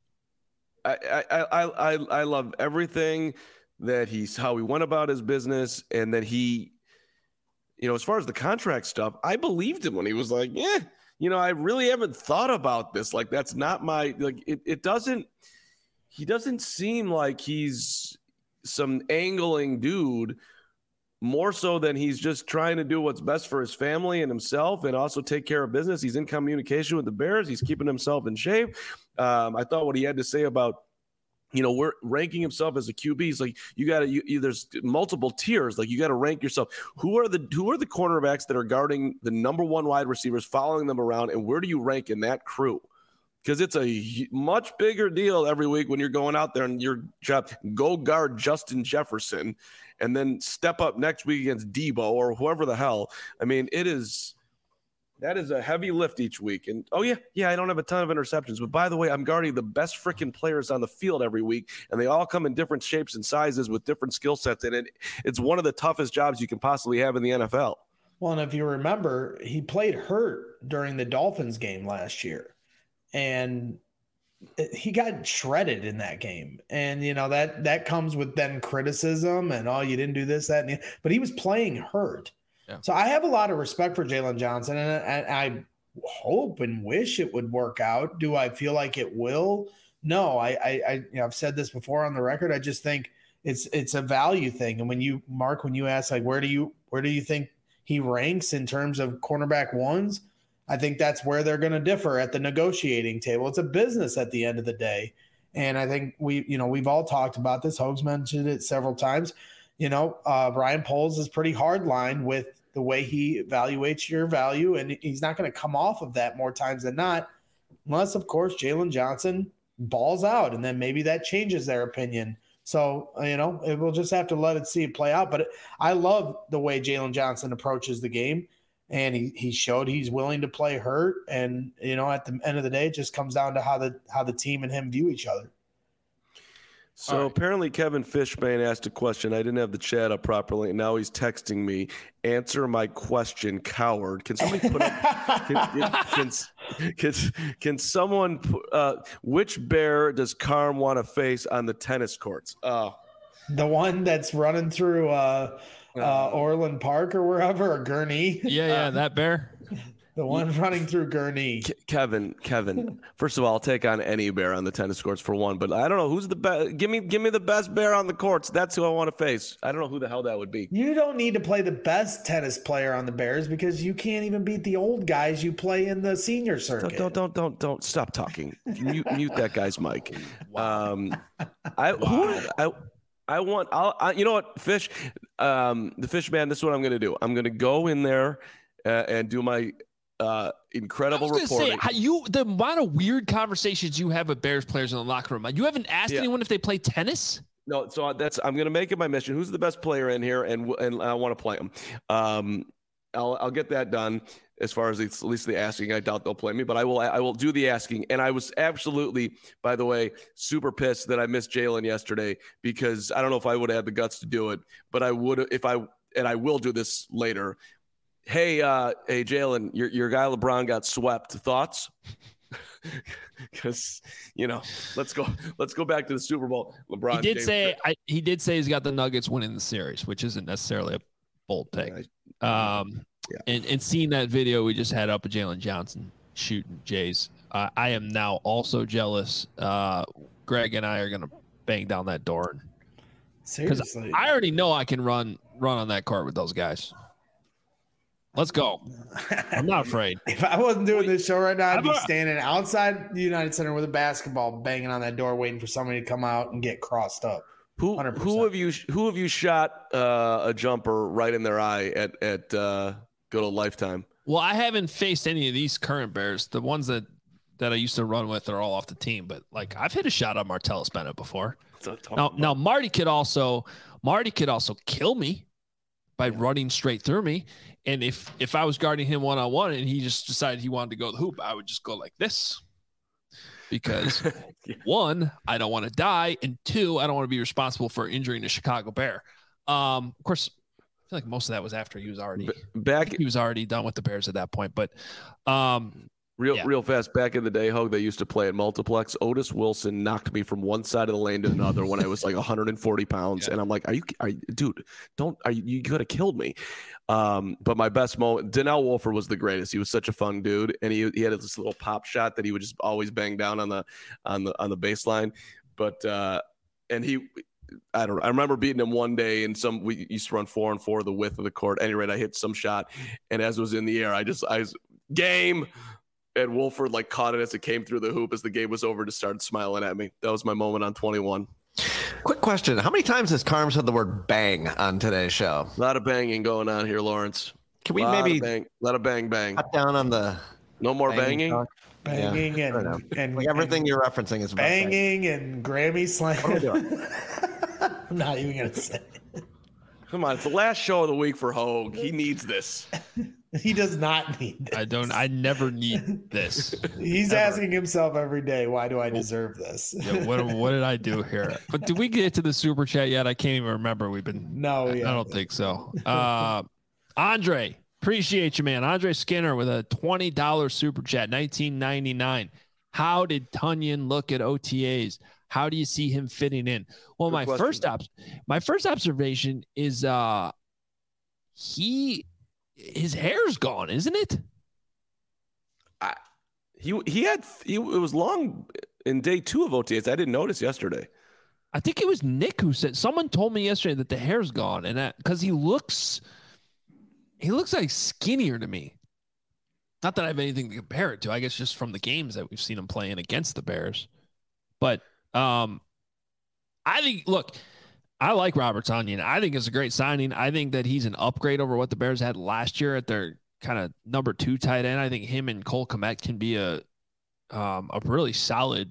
I I I I, I love everything that he's how he went about his business, and that he, you know, as far as the contract stuff, I believed him when he was like, yeah, you know, I really haven't thought about this. Like, that's not my like. It it doesn't. He doesn't seem like he's some angling dude. More so than he's just trying to do what's best for his family and himself, and also take care of business. He's in communication with the Bears. He's keeping himself in shape. Um, I thought what he had to say about, you know, we're ranking himself as a Q B. He's like, you got to, you, you, there's multiple tiers. Like, you got to rank yourself. Who are the who are the cornerbacks that are guarding the number one wide receivers, following them around, and where do you rank in that crew? Because it's a much bigger deal every week when you're going out there and your job, go guard Justin Jefferson and then step up next week against Debo or whoever the hell. I mean, it is – that is a heavy lift each week. And, oh, yeah, yeah, I don't have a ton of interceptions. But, by the way, I'm guarding the best freaking players on the field every week, and they all come in different shapes and sizes with different skill sets. And it, it's one of the toughest jobs you can possibly have in the N F L. Well, and if you remember, he played hurt during the Dolphins game last year. And he got shredded in that game. And, you know, that that comes with then criticism and, oh, you didn't do this, that, and the, but he was playing hurt. Yeah. So I have a lot of respect for Jaylon Johnson, and I, I hope and wish it would work out. Do I feel like it will? No, I, I, I you know, I've said this before on the record. I just think it's it's a value thing. And when you, Mark, when you ask, like, where do you where do you think he ranks in terms of cornerback ones? I think that's where they're going to differ at the negotiating table. It's a business at the end of the day. And I think we, you know, we've all talked about this. Hogs mentioned it several times. You know, uh, Ryan Poles is pretty hard line with the way he evaluates your value. And he's not going to come off of that more times than not, unless, of course, Jaylon Johnson balls out. And then maybe that changes their opinion. So, you know, it, we'll just have to let it see it play out. But it, I love the way Jaylon Johnson approaches the game. And he, he showed he's willing to play hurt. And, you know, at the end of the day, it just comes down to how the how the team and him view each other. So right. Apparently Kevin Fishman asked a question. I didn't have the chat up properly, and now he's texting me, answer my question, coward. Can somebody put up – can, can, can, can someone uh, – which bear does Carm want to face on the tennis courts? Oh. The one that's running through uh, – Uh, Orland Park or wherever, or Gurnee. Yeah, yeah, that bear. The one running through Gurnee. Ke- Kevin, Kevin. First of all, I'll take on any bear on the tennis courts for one, but I don't know who's the best. Give me, give me the best bear on the courts. That's who I want to face. I don't know who the hell that would be. You don't need to play the best tennis player on the Bears because you can't even beat the old guys you play in the senior circuit. Don't, don't, don't, don't, don't stop talking. mute, mute that guy's mic. Wow. Um, I, wow. who, I. I want, I'll, I, you know what, Fish, um, the Fish man, this is what I'm going to do. I'm going to go in there uh, and do my uh, incredible I was reporting. Say, how you, the amount of weird conversations you have with Bears players in the locker room. You haven't asked yeah. anyone if they play tennis? No, so that's, I'm going to make it my mission. Who's the best player in here? And and I want to play him. Um, I'll, I'll get that done. As far as at least the asking, I doubt they'll play me, but I will. I will do the asking. And I was absolutely, by the way, super pissed that I missed Jaylon yesterday because I don't know if I would have had the guts to do it, but I would if I and I will do this later. Hey, uh, hey, Jaylon, your your guy LeBron got swept. Thoughts? Because you know, let's go. Let's go back to the Super Bowl. LeBron. He did James say. I, he did say he's got the Nuggets winning the series, which isn't necessarily a bold take. Yeah, I, um. Yeah. And and seeing that video we just had up of Jaylon Johnson, shooting Jays. Uh, I am now also jealous. Uh, Greg and I are gonna bang down that door. Seriously, I already know I can run run on that court with those guys. Let's go. I'm not afraid. If I wasn't doing this show right now, I'd be I'm a- standing outside the United Center with a basketball, banging on that door, waiting for somebody to come out and get crossed up. Who one hundred percent. who have you who have you shot uh, a jumper right in their eye at at uh, good old Lifetime? Well, I haven't faced any of these current Bears. The ones that that I used to run with are all off the team. But like I've hit a shot on Martellus Bennett before. Now, now Marty could also Marty could also kill me by running straight through me. And if if I was guarding him one on one and he just decided he wanted to go to the hoop, I would just go like this. Because Yeah. one, I don't want to die, and two, I don't want to be responsible for injuring a Chicago Bear. Um, of course, I feel like most of that was after he was already B- back he was already done with the Bears at that point. But um, real yeah. real fast, back in the day, Hogue, they used to play at multiplex. Otis Wilson knocked me from one side of the lane to another when I was like one hundred forty pounds, Yeah. and I'm like, "Are you, are you dude? Don't are you, you could have killed me." Um, but my best moment, Donnell Wolford was the greatest. He was such a fun dude, and he he had this little pop shot that he would just always bang down on the on the on the baseline. But uh, and he. I don't know. I remember beating him one day, and some we used to run four and four the width of the court. At any rate, I hit some shot, and as it was in the air, I just I was game, and Wolford like caught it as it came through the hoop as the game was over, just started smiling at me. That was my moment on twenty-one. Quick question. How many times has Carm said the word bang on today's show? A lot of banging going on here, Lawrence. Can we lot maybe of bang, a lot of bang bang. cut down on the No more banging. talk? Banging Yeah, I don't know. and, and Like everything you're referencing is about banging and Grammy slam. What are we doing? I'm not even gonna say. Come on, it's the last show of the week for Hogue. He needs this. He does not need this. I don't. I never need this. He's Ever. asking himself every day, "Why do I deserve this?" Yeah, what what did I do here? But did we get to the super chat yet? I can't even remember. We've been. No, I, yeah. I don't think so. Uh, Andre, appreciate you, man. Andre Skinner with a twenty dollars super chat, nineteen ninety-nine. How did Tunyon look at O T As? How do you see him fitting in? Well, Good my question. first op- my first observation is uh he his hair's gone, isn't it? He he had he, it was long in day two of O T As. I didn't notice yesterday. I think it was Nick who said someone told me yesterday that the hair's gone, and that because he looks he looks like skinnier to me. Not that I have anything to compare it to. I guess just from the games that we've seen him playing against the Bears. But um, I think look, I like Robert Tonyan. I think it's a great signing. I think that he's an upgrade over what the Bears had last year at their kind of number two tight end. I think him and Cole Kmet can be a um, a really solid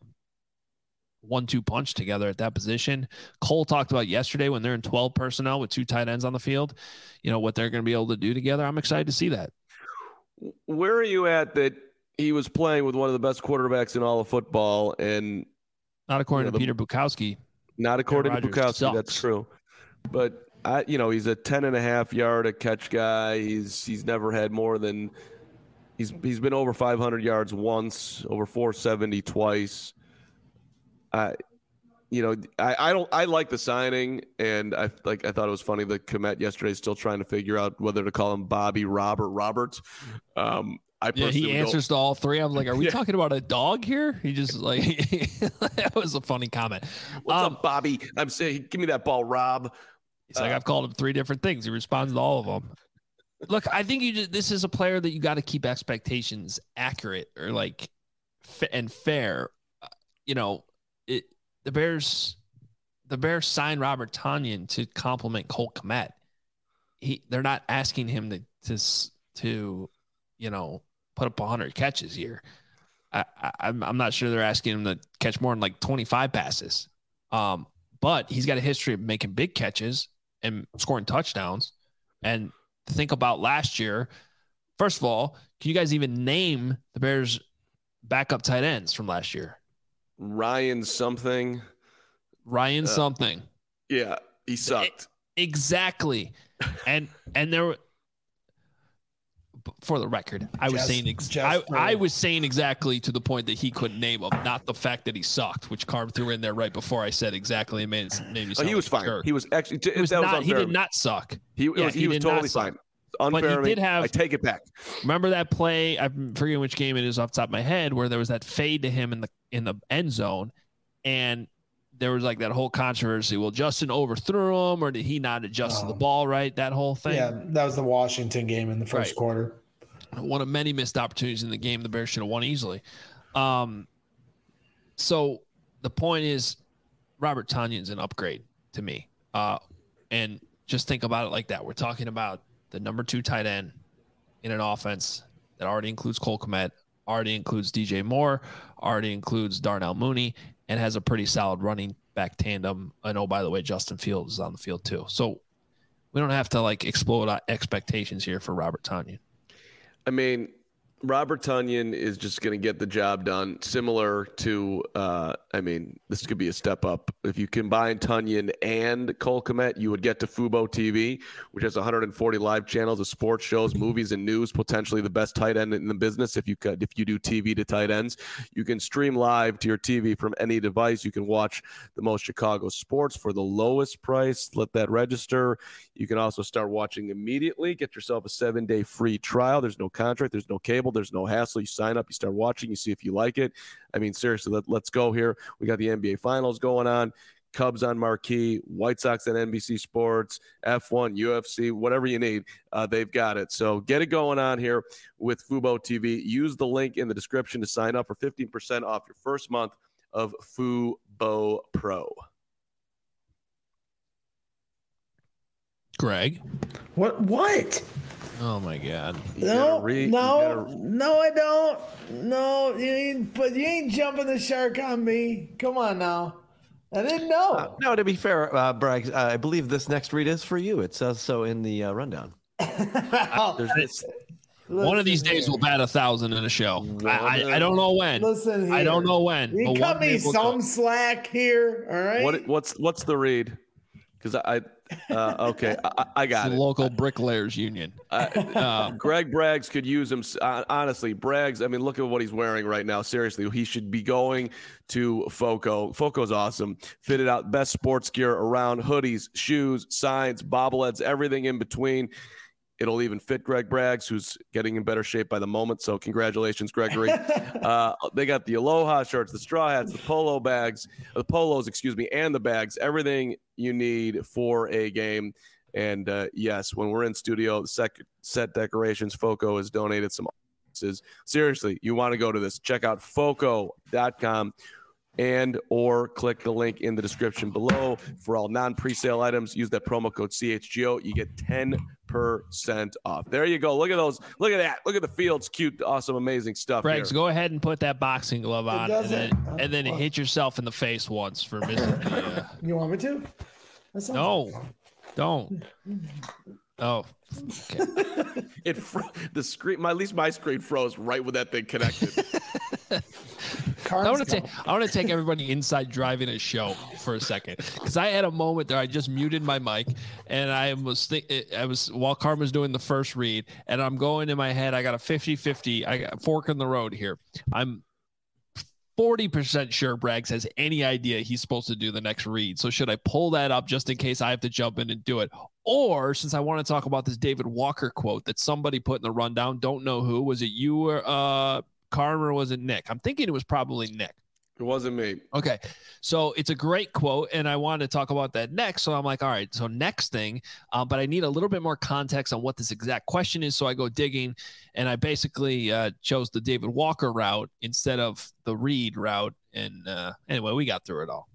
one two punch together at that position. Cole talked about yesterday when they're in twelve personnel with two tight ends on the field, you know, what they're going to be able to do together. I'm excited to see that. Where are you at that he was playing with one of the best quarterbacks in all of football, and Not according Yeah, to the- Peter Bukowski. not according to Rodgers Bukowski, sucks. that's true. But I, you know, he's a ten and a half yard a catch guy. He's he's never had more than he's he's been over five hundred yards once, over four seventy twice. I, you know, I, I don't I like the signing, and I like I thought it was funny that Kmet yesterday is still trying to figure out whether to call him Bobby, Robert, Robert. Um, I Yeah, personally he would go- answers to all three. I'm like, are we Yeah. talking about a dog here? He just like that was a funny comment. What's Um, up, Bobby? I'm saying, give me that ball, Rob. He's like, Uh, I've called him three different things. He responds to all of them. Look, I think you just, this is a player that you got to keep expectations accurate or like f- and fair. Uh, you know, it the Bears, the Bears signed Robert Tonyan to complement Cole Kmet. He, they're not asking him to to s- to, you know, put up one hundred catches here. I, I, I'm I'm not sure they're asking him to catch more than like twenty-five passes. Um, but he's got a history of making big catches and scoring touchdowns. And to think about last year, first of all, can you guys even name the Bears' backup tight ends from last year? Ryan something. Ryan Uh, something. Yeah, he sucked. Exactly. And and there were, for the record, I was Just- saying ex- just I, for- I was saying exactly to the point that he couldn't name them, not the fact that he sucked, which Carm threw in there right before I said exactly. It made, it made me Oh, sound he was like a fine. jerk. He was actually. He was that not. was he unfair. did not suck. He, it Yeah, was, he he was did not totally suck. fine. unfair. But he I mean, did have- I take it back. Remember that play? I'm forgetting which game it is off the top of my head, where there was that fade to him in the in the end zone, and there was like that whole controversy. Well, Justin overthrew him, or did he not adjust to the Oh. ball right? That whole thing. Yeah, that was the Washington game in the first Right. quarter. One of many missed opportunities in the game. The Bears should have won easily. Um, so the point is, Robert Tonyan's an upgrade to me. Uh, and just think about it like that. We're talking about the number two tight end in an offense that already includes Cole Kmet, already includes D J Moore, already includes Darnell Mooney, and has a pretty solid running back tandem. And oh, by the way, Justin Fields is on the field too. So we don't have to like explode our expectations here for Robert Tonyan. I mean, Robert Tonyan is just going to get the job done. Similar to, uh, I mean, this could be a step up. If you combine Tonyan and Cole Kmet, you would get to Fubo T V, which has one hundred forty live channels of sports shows, movies, and news. Potentially the best tight end in the business. If you could, if you do T V to tight ends, you can stream live to your T V from any device. You can watch the most Chicago sports for the lowest price. Let that register. You can also start watching immediately. Get yourself a seven-day free trial. There's no contract. There's no cable. There's no hassle. You sign up. You start watching. You see if you like it. I mean, seriously, let, let's go here. We got the N B A Finals going on. Cubs on Marquee. White Sox on N B C Sports. F one, U F C, whatever you need. Uh, they've got it. So get it going on here with Fubo T V. Use the link in the description to sign up for fifteen percent off your first month of Fubo Pro. Greg. What? What? Oh my God. You No, gotta re- you no, gotta- no, I don't. No, you ain't. But you ain't jumping the shark on me. Come on now. I didn't know. Uh, no, to be fair, uh, Bragg, uh, I believe this next read is for you. It says so in the uh, rundown. There's this. One of these Listen days here. we'll bat a thousand in a show. I, I, I don't know when. Listen here. I don't know when. You but cut one me day we'll some go. slack here. All right. What what's what's the read? Because I, uh, okay, I, I It's got the it. local bricklayers union. I, Uh, Greg Braggs could use him. Uh, honestly, Braggs, I mean, look at what he's wearing right now. Seriously, he should be going to Foco. Foco's awesome. Fitted out, best sports gear around, hoodies, shoes, signs, bobbleheads, everything in between. It'll even fit Greg Braggs, who's getting in better shape by the moment. So congratulations, Gregory. uh, they got the Aloha shirts, the straw hats, the polo bags, the polos, excuse me, and the bags. Everything you need for a game. And uh, yes, when we're in studio, the sec- set decorations, Foco has donated some. Seriously, you want to go to this. Check out foco dot com and or click the link in the description below. For all non-presale items, use that promo code C H G O. You get ten percent off. There you go. Look at those. Look at that. Look at the Fields. Cute, awesome, amazing stuff. Braggs, here. go ahead and put that boxing glove on, and doesn't- then, and then hit yourself in the face once for missing the. Uh, You want me to? That sounds- no, don't. Oh, okay. It fro- the screen. My at least my screen froze right with that thing connected. Carnes I want to don't. take I want to take everybody inside driving a show for a second, because I had a moment there. I just muted my mic, and I was think I was while Carmen was doing the first read, and I'm going in my head. I got a fifty-fifty. I got a fork in the road here. I'm forty percent sure Braggs has any idea he's supposed to do the next read. So should I pull that up just in case I have to jump in and do it? Or since I want to talk about this David Walker quote that somebody put in the rundown, don't know who, was it you or uh Carmen, or was it Nick? I'm thinking it was probably Nick. It wasn't me. Okay. So it's a great quote, and I wanted to talk about that next. So I'm like, all right, so next thing, um, but I need a little bit more context on what this exact question is. So I go digging, and I basically uh, chose the David Walker route instead of the Reed route. And uh, anyway, we got through it all.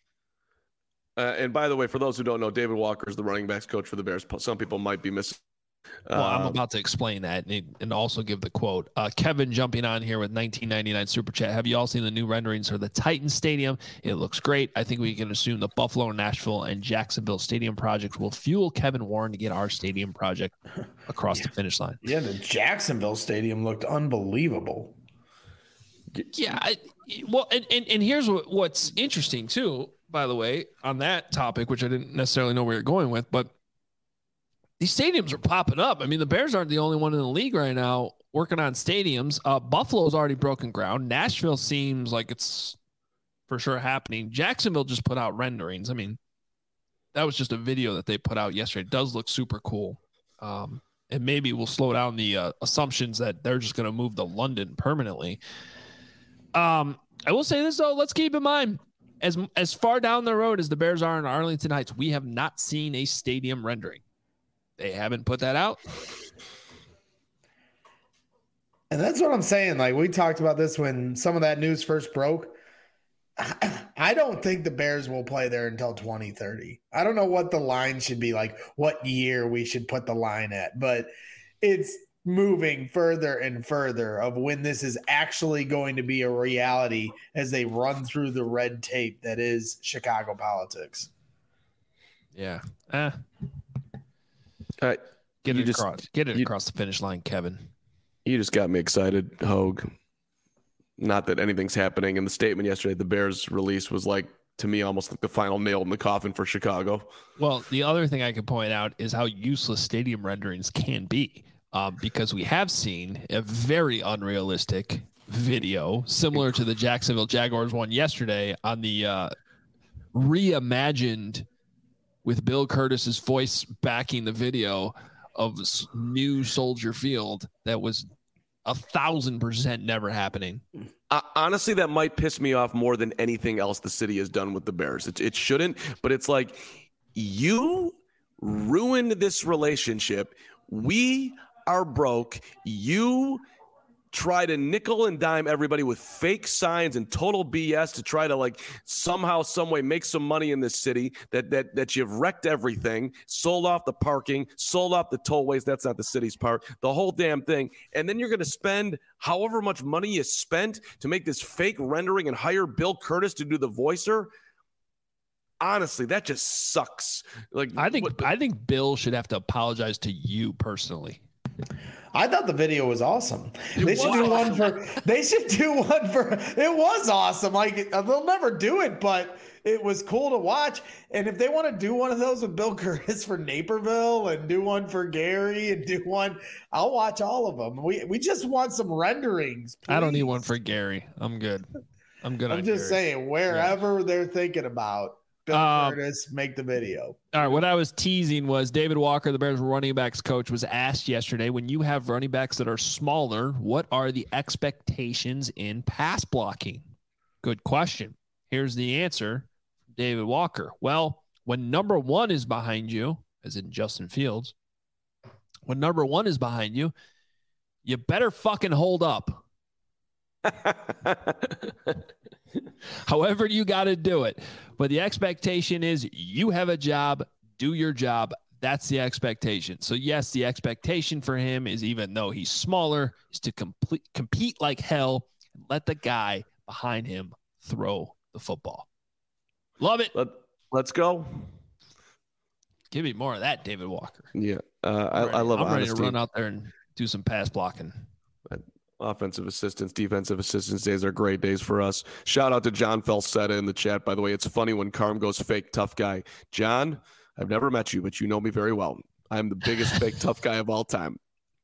Uh, and by the way, for those who don't know, David Walker is the running backs coach for the Bears. Some people might be missing. Well, I'm Um, about to explain that and, and also give the quote. Uh, Kevin jumping on here with nineteen ninety-nine Super Chat. Have you all seen the new renderings for the Titan Stadium? It looks great. I think we can assume the Buffalo, Nashville, and Jacksonville stadium projects will fuel Kevin Warren to get our stadium project across the finish line. Yeah, the Jacksonville Stadium looked unbelievable. Yeah. I, well, and, and, and here's what, what's interesting, too, by the way, on that topic, which I didn't necessarily know where you're going with, but these stadiums are popping up. I mean, the Bears aren't the only one in the league right now working on stadiums. Uh, Buffalo's already broken ground. Nashville seems like it's for sure happening. Jacksonville just put out renderings. I mean, that was just a video that they put out yesterday. It does look super cool. Um, and maybe we'll slow down the uh, assumptions that they're just going to move to London permanently. Um, I will say this though. Let's keep in mind, as as far down the road as the Bears are in Arlington Heights, we have not seen a stadium rendering. They haven't put that out. And that's what I'm saying. Like, we talked about this when some of that news first broke. I don't think the Bears will play there until twenty thirty. I don't know what the line should be, like what year we should put the line at, but it's moving further and further of when this is actually going to be a reality as they run through the red tape that is Chicago politics. Yeah. Eh. All right. Get You it just- across. Get it you- across the finish line, Kevin. You just got me excited, Hogue. Not that anything's happening. And the statement yesterday, the Bears release was like, to me, almost like the final nail in the coffin for Chicago. Well, the other thing I could point out is how useless stadium renderings can be, um, because we have seen a very unrealistic video similar to the Jacksonville Jaguars one yesterday on the uh, reimagined with Bill Curtis's voice backing the video of s- new Soldier Field that was a thousand percent never happening. Uh, honestly, that might piss me off more than anything else the city has done with the Bears. It, it shouldn't, but it's like, you ruined this relationship. We are broke. You try to nickel and dime everybody with fake signs and total B S to try to like somehow, some way make some money in this city that that that you've wrecked everything, sold off the parking, sold off the tollways. That's not the city's part, the whole damn thing. And then you're going to spend however much money you spent to make this fake rendering and hire Bill Curtis to do the voicer. Honestly, that just sucks. Like, I think what- I think Bill should have to apologize to you personally. I thought the video was awesome. It they should was do awesome. one for. They should do one for. It was awesome. Like, they'll never do it, but it was cool to watch. And if they want to do one of those with Bill Curtis for Naperville and do one for Gary and do one, I'll watch all of them. We we just want some renderings. I don't need please. one for Gary. I'm good. I'm good. I'm on just Gary. saying, wherever they're thinking about Bill Um, Curtis, make the video. All right, what I was teasing was David Walker, the Bears running backs coach, was asked yesterday, when you have running backs that are smaller, what are the expectations in pass blocking? Good question. Here's the answer, David Walker. Well, when number one is behind you, as in Justin Fields, when number one is behind you, you better fucking hold up. However you got to do it. But the expectation is you have a job, do your job. That's the expectation. So yes, the expectation for him is, even though he's smaller, is to complete, compete like hell and let the guy behind him throw the football. Love it. Let, let's go. Give me more of that, David Walker. Yeah, uh, I, I'm ready- I love I'm ready honesty. to run out there and do some pass blocking. Offensive assistants, defensive assistants days are great days for us. Shout out to John Falsetta in the chat, by the way. It's funny when Carm goes fake tough guy. John, I've never met you, but you know me very well. I'm the biggest fake tough guy of all time.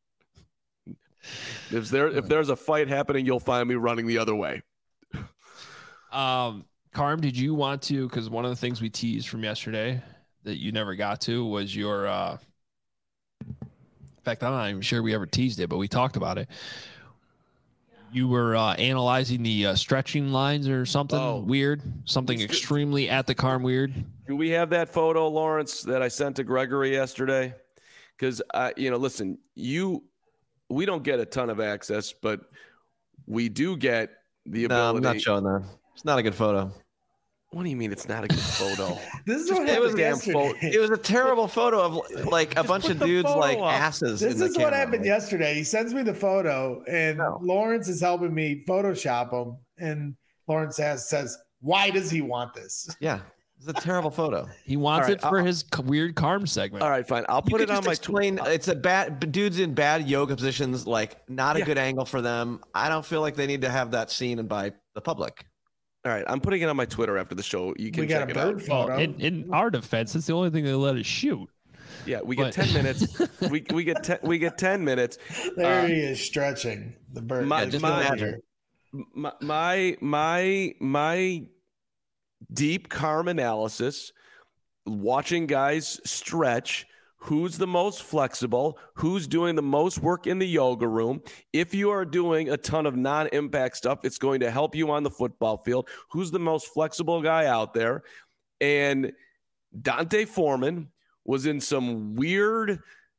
If there if there's a fight happening, you'll find me running the other way. Um, Carm, did you want to, because one of the things we teased from yesterday that you never got to was your, uh, in fact, I'm not even sure we ever teased it, but we talked about it. You were uh, analyzing the uh, stretching lines or something Oh. weird, something It's- extremely at the Carm weird. Do we have that photo, Lawrence, that I sent to Gregory yesterday? Because, uh, you know, listen, you, we don't get a ton of access, but we do get the No, ability. I'm not showing that. It's not a good photo. What do you mean it's not a good photo? This is Just what put happened the damn yesterday. photo- It was a terrible photo of like a bunch put of the dudes photo like up. asses. This in the is what camera. happened Like, yesterday. He sends me the photo, and No. Lawrence is helping me Photoshop him. And Lawrence has, says, "Why does he want this?" Yeah, it's a terrible photo. He wants All right, it for I'll- his c- weird Carm segment. All right, fine. I'll You put could it on just my explain. It's a bad dudes in bad yoga positions. Like not a Yeah. good angle for them. I don't feel like they need to have that seen by the public. All right, I'm putting it on my Twitter after the show. You can We got check a it bird out. photo. Well, in, in our defense, it's the only thing they let us shoot. Yeah, we get But- ten minutes. We we get ten, we get ten minutes. There Uh, he is stretching the bird. my- Yeah, just my- imagine. My my my my deep Carm analysis, watching guys stretch who's the most flexible, who's doing the most work in the yoga room. If you are doing a ton of non-impact stuff, it's going to help you on the football field. Who's the most flexible guy out there? And D'Onta Foreman was in some weird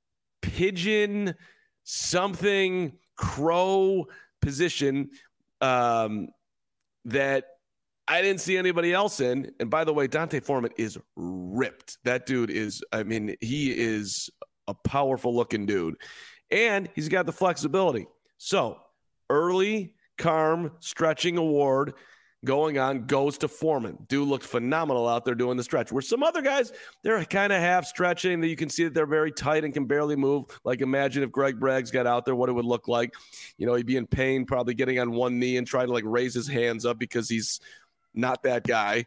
pigeon something crow position um, that I didn't see anybody else in. And by the way, D'Onta Foreman is ripped. That dude is, I mean, he is a powerful looking dude. And he's got the flexibility. So early Carm stretching award going on goes to Foreman. Dude looked phenomenal out there doing the stretch. Where some other guys, they're kind of half stretching. That you can see that they're very tight and can barely move. Like imagine if Greg Braggs got out there, what it would look like. You know, he'd be in pain, probably getting on one knee and trying to like raise his hands up because he's not that guy.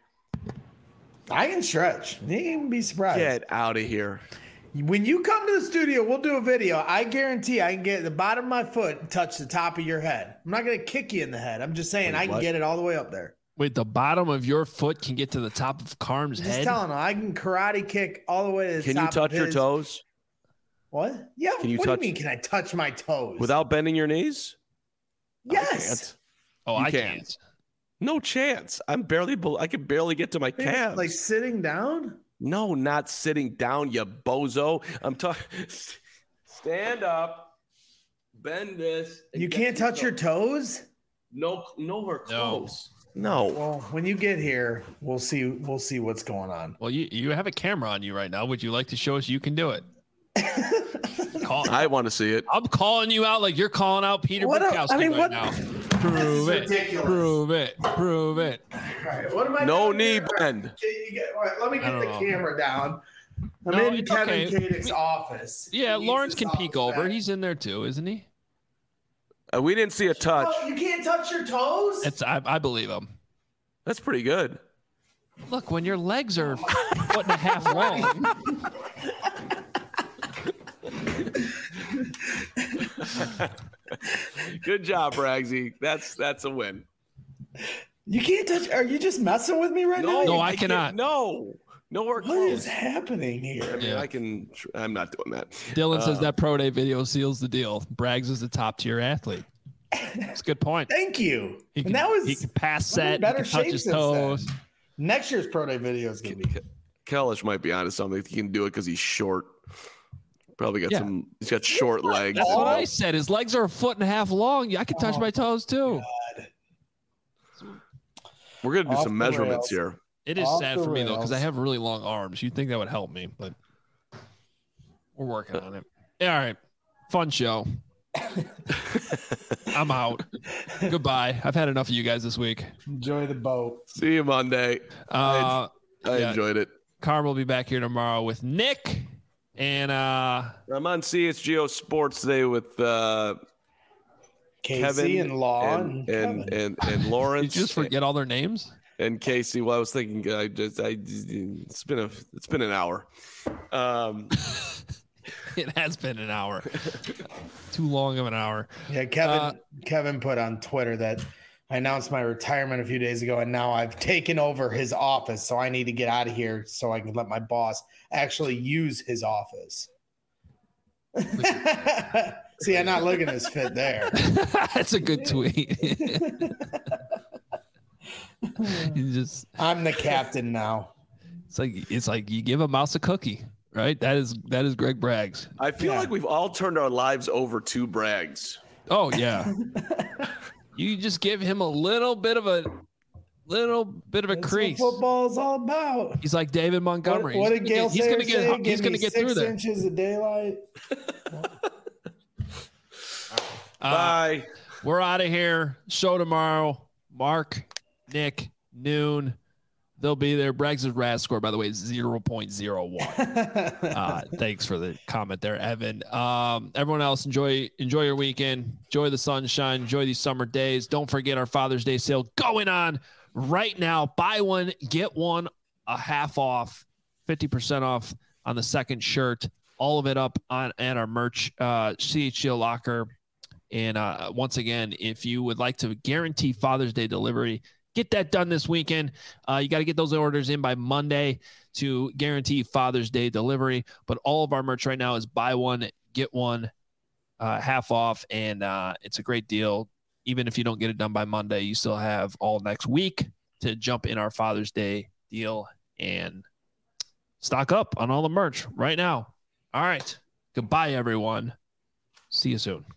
I can stretch. You can be surprised. Get out of here. When you come to the studio, we'll do a video. I guarantee I can get the bottom of my foot and touch the top of your head. I'm not going to kick you in the head. I'm just saying Wait, I can what? get it all the way up there. Wait, the bottom of your foot can get to the top of Carm's just head? Just telling him, I can karate kick all the way to the can top of his. Can you touch your toes? What? Yeah. Can you what touch, do you mean, can I touch my toes? Without bending your knees? Yes. I oh, you I can't. can't. No chance. I'm barely, I can barely get to my calves. Like sitting down? No, not sitting down, you bozo. I'm talking. Stand up, bend this. You can't touch your toes? No, nowhere close. No. no. Well, when you get here, we'll see. We'll see what's going on. Well, you you have a camera on you right now. Would you like to show us you can do it? Call, I want to see it. I'm calling you out like you're calling out Peter Bukowski I mean, right what? now. Prove it. Ridiculous. Prove it. Prove it. All right. What am I no doing knee here? bend. Get, all right, let me get the know. camera down. I'm no, in Kevin okay. Kadick's office. Yeah, Lawrence can peek over. Back. He's in there too, isn't he? Uh, we didn't see a touch. Oh, you can't touch your toes? It's I, I believe him. That's pretty good. Look, when your legs are a foot and a half long. Good job, Braggsy. That's that's a win. You can't touch. Are you just messing with me right no, now? No, I, I cannot. No, nowhere what close. What is happening here? I mean, yeah. I can. I'm not doing that. Dylan uh, says that pro day video seals the deal. Braggs is the top tier athlete. That's a good point. Thank you. He can, and that was he can pass set. Better he can touch his toes. Then. Next year's pro day video is going to be. Kellish might be onto something. He can do it because he's short. Probably got yeah. some. He's got short legs. That's what I said. His legs are a foot and a half long. I can touch oh, my toes too. God. We're gonna do Off some measurements rails. here. It is Off sad for me rails. though because I have really long arms. You'd think that would help me, but we're working on it. Yeah, all right, fun show. I'm out. Goodbye. I've had enough of you guys this week. Enjoy the boat. See you Monday. Uh, I, I yeah. enjoyed it. Carm will be back here tomorrow with Nick. And uh, I'm on C H G O Sports today with uh, Casey Kevin and Law and and and, and, and Lawrence. Did you just forget all their names? And Casey. Well, I was thinking, I just, I, it's been a, it's been an hour. Um, it has been an hour. Too long of an hour. Yeah, Kevin. Uh, Kevin put on Twitter that I announced my retirement a few days ago, and now I've taken over his office, so I need to get out of here so I can let my boss actually use his office. See, I'm not looking as fit there. That's a good tweet. You just I'm the captain now. It's like it's like you give a mouse a cookie, right? That is that is Greg Braggs. I feel Yeah. like we've all turned our lives over to Braggs. Oh yeah. You just give him a little bit of a little bit of a That's crease. what football is all about. He's like David Montgomery. What, what did Gail he's gonna get, say? he's Give gonna me get six through there. inches of daylight. Uh, Bye. We're out of here. Show tomorrow. Mark, Nick, noon. They'll be there. Braggs' R A S score, by the way, is zero point zero one. uh, thanks for the comment there, Evan. Um, everyone else, enjoy enjoy your weekend. Enjoy the sunshine. Enjoy these summer days. Don't forget our Father's Day sale going on right now. Buy one, get one, a half off, fifty percent off on the second shirt. All of it up on at our merch, uh, C H G O Locker. And uh, once again, if you would like to guarantee Father's Day delivery, get that done this weekend. Uh, you got to get those orders in by Monday to guarantee Father's Day delivery. But all of our merch right now is buy one, get one uh, half off, and uh, it's a great deal. Even if you don't get it done by Monday, you still have all next week to jump in our Father's Day deal and stock up on all the merch right now. All right. Goodbye, everyone. See you soon.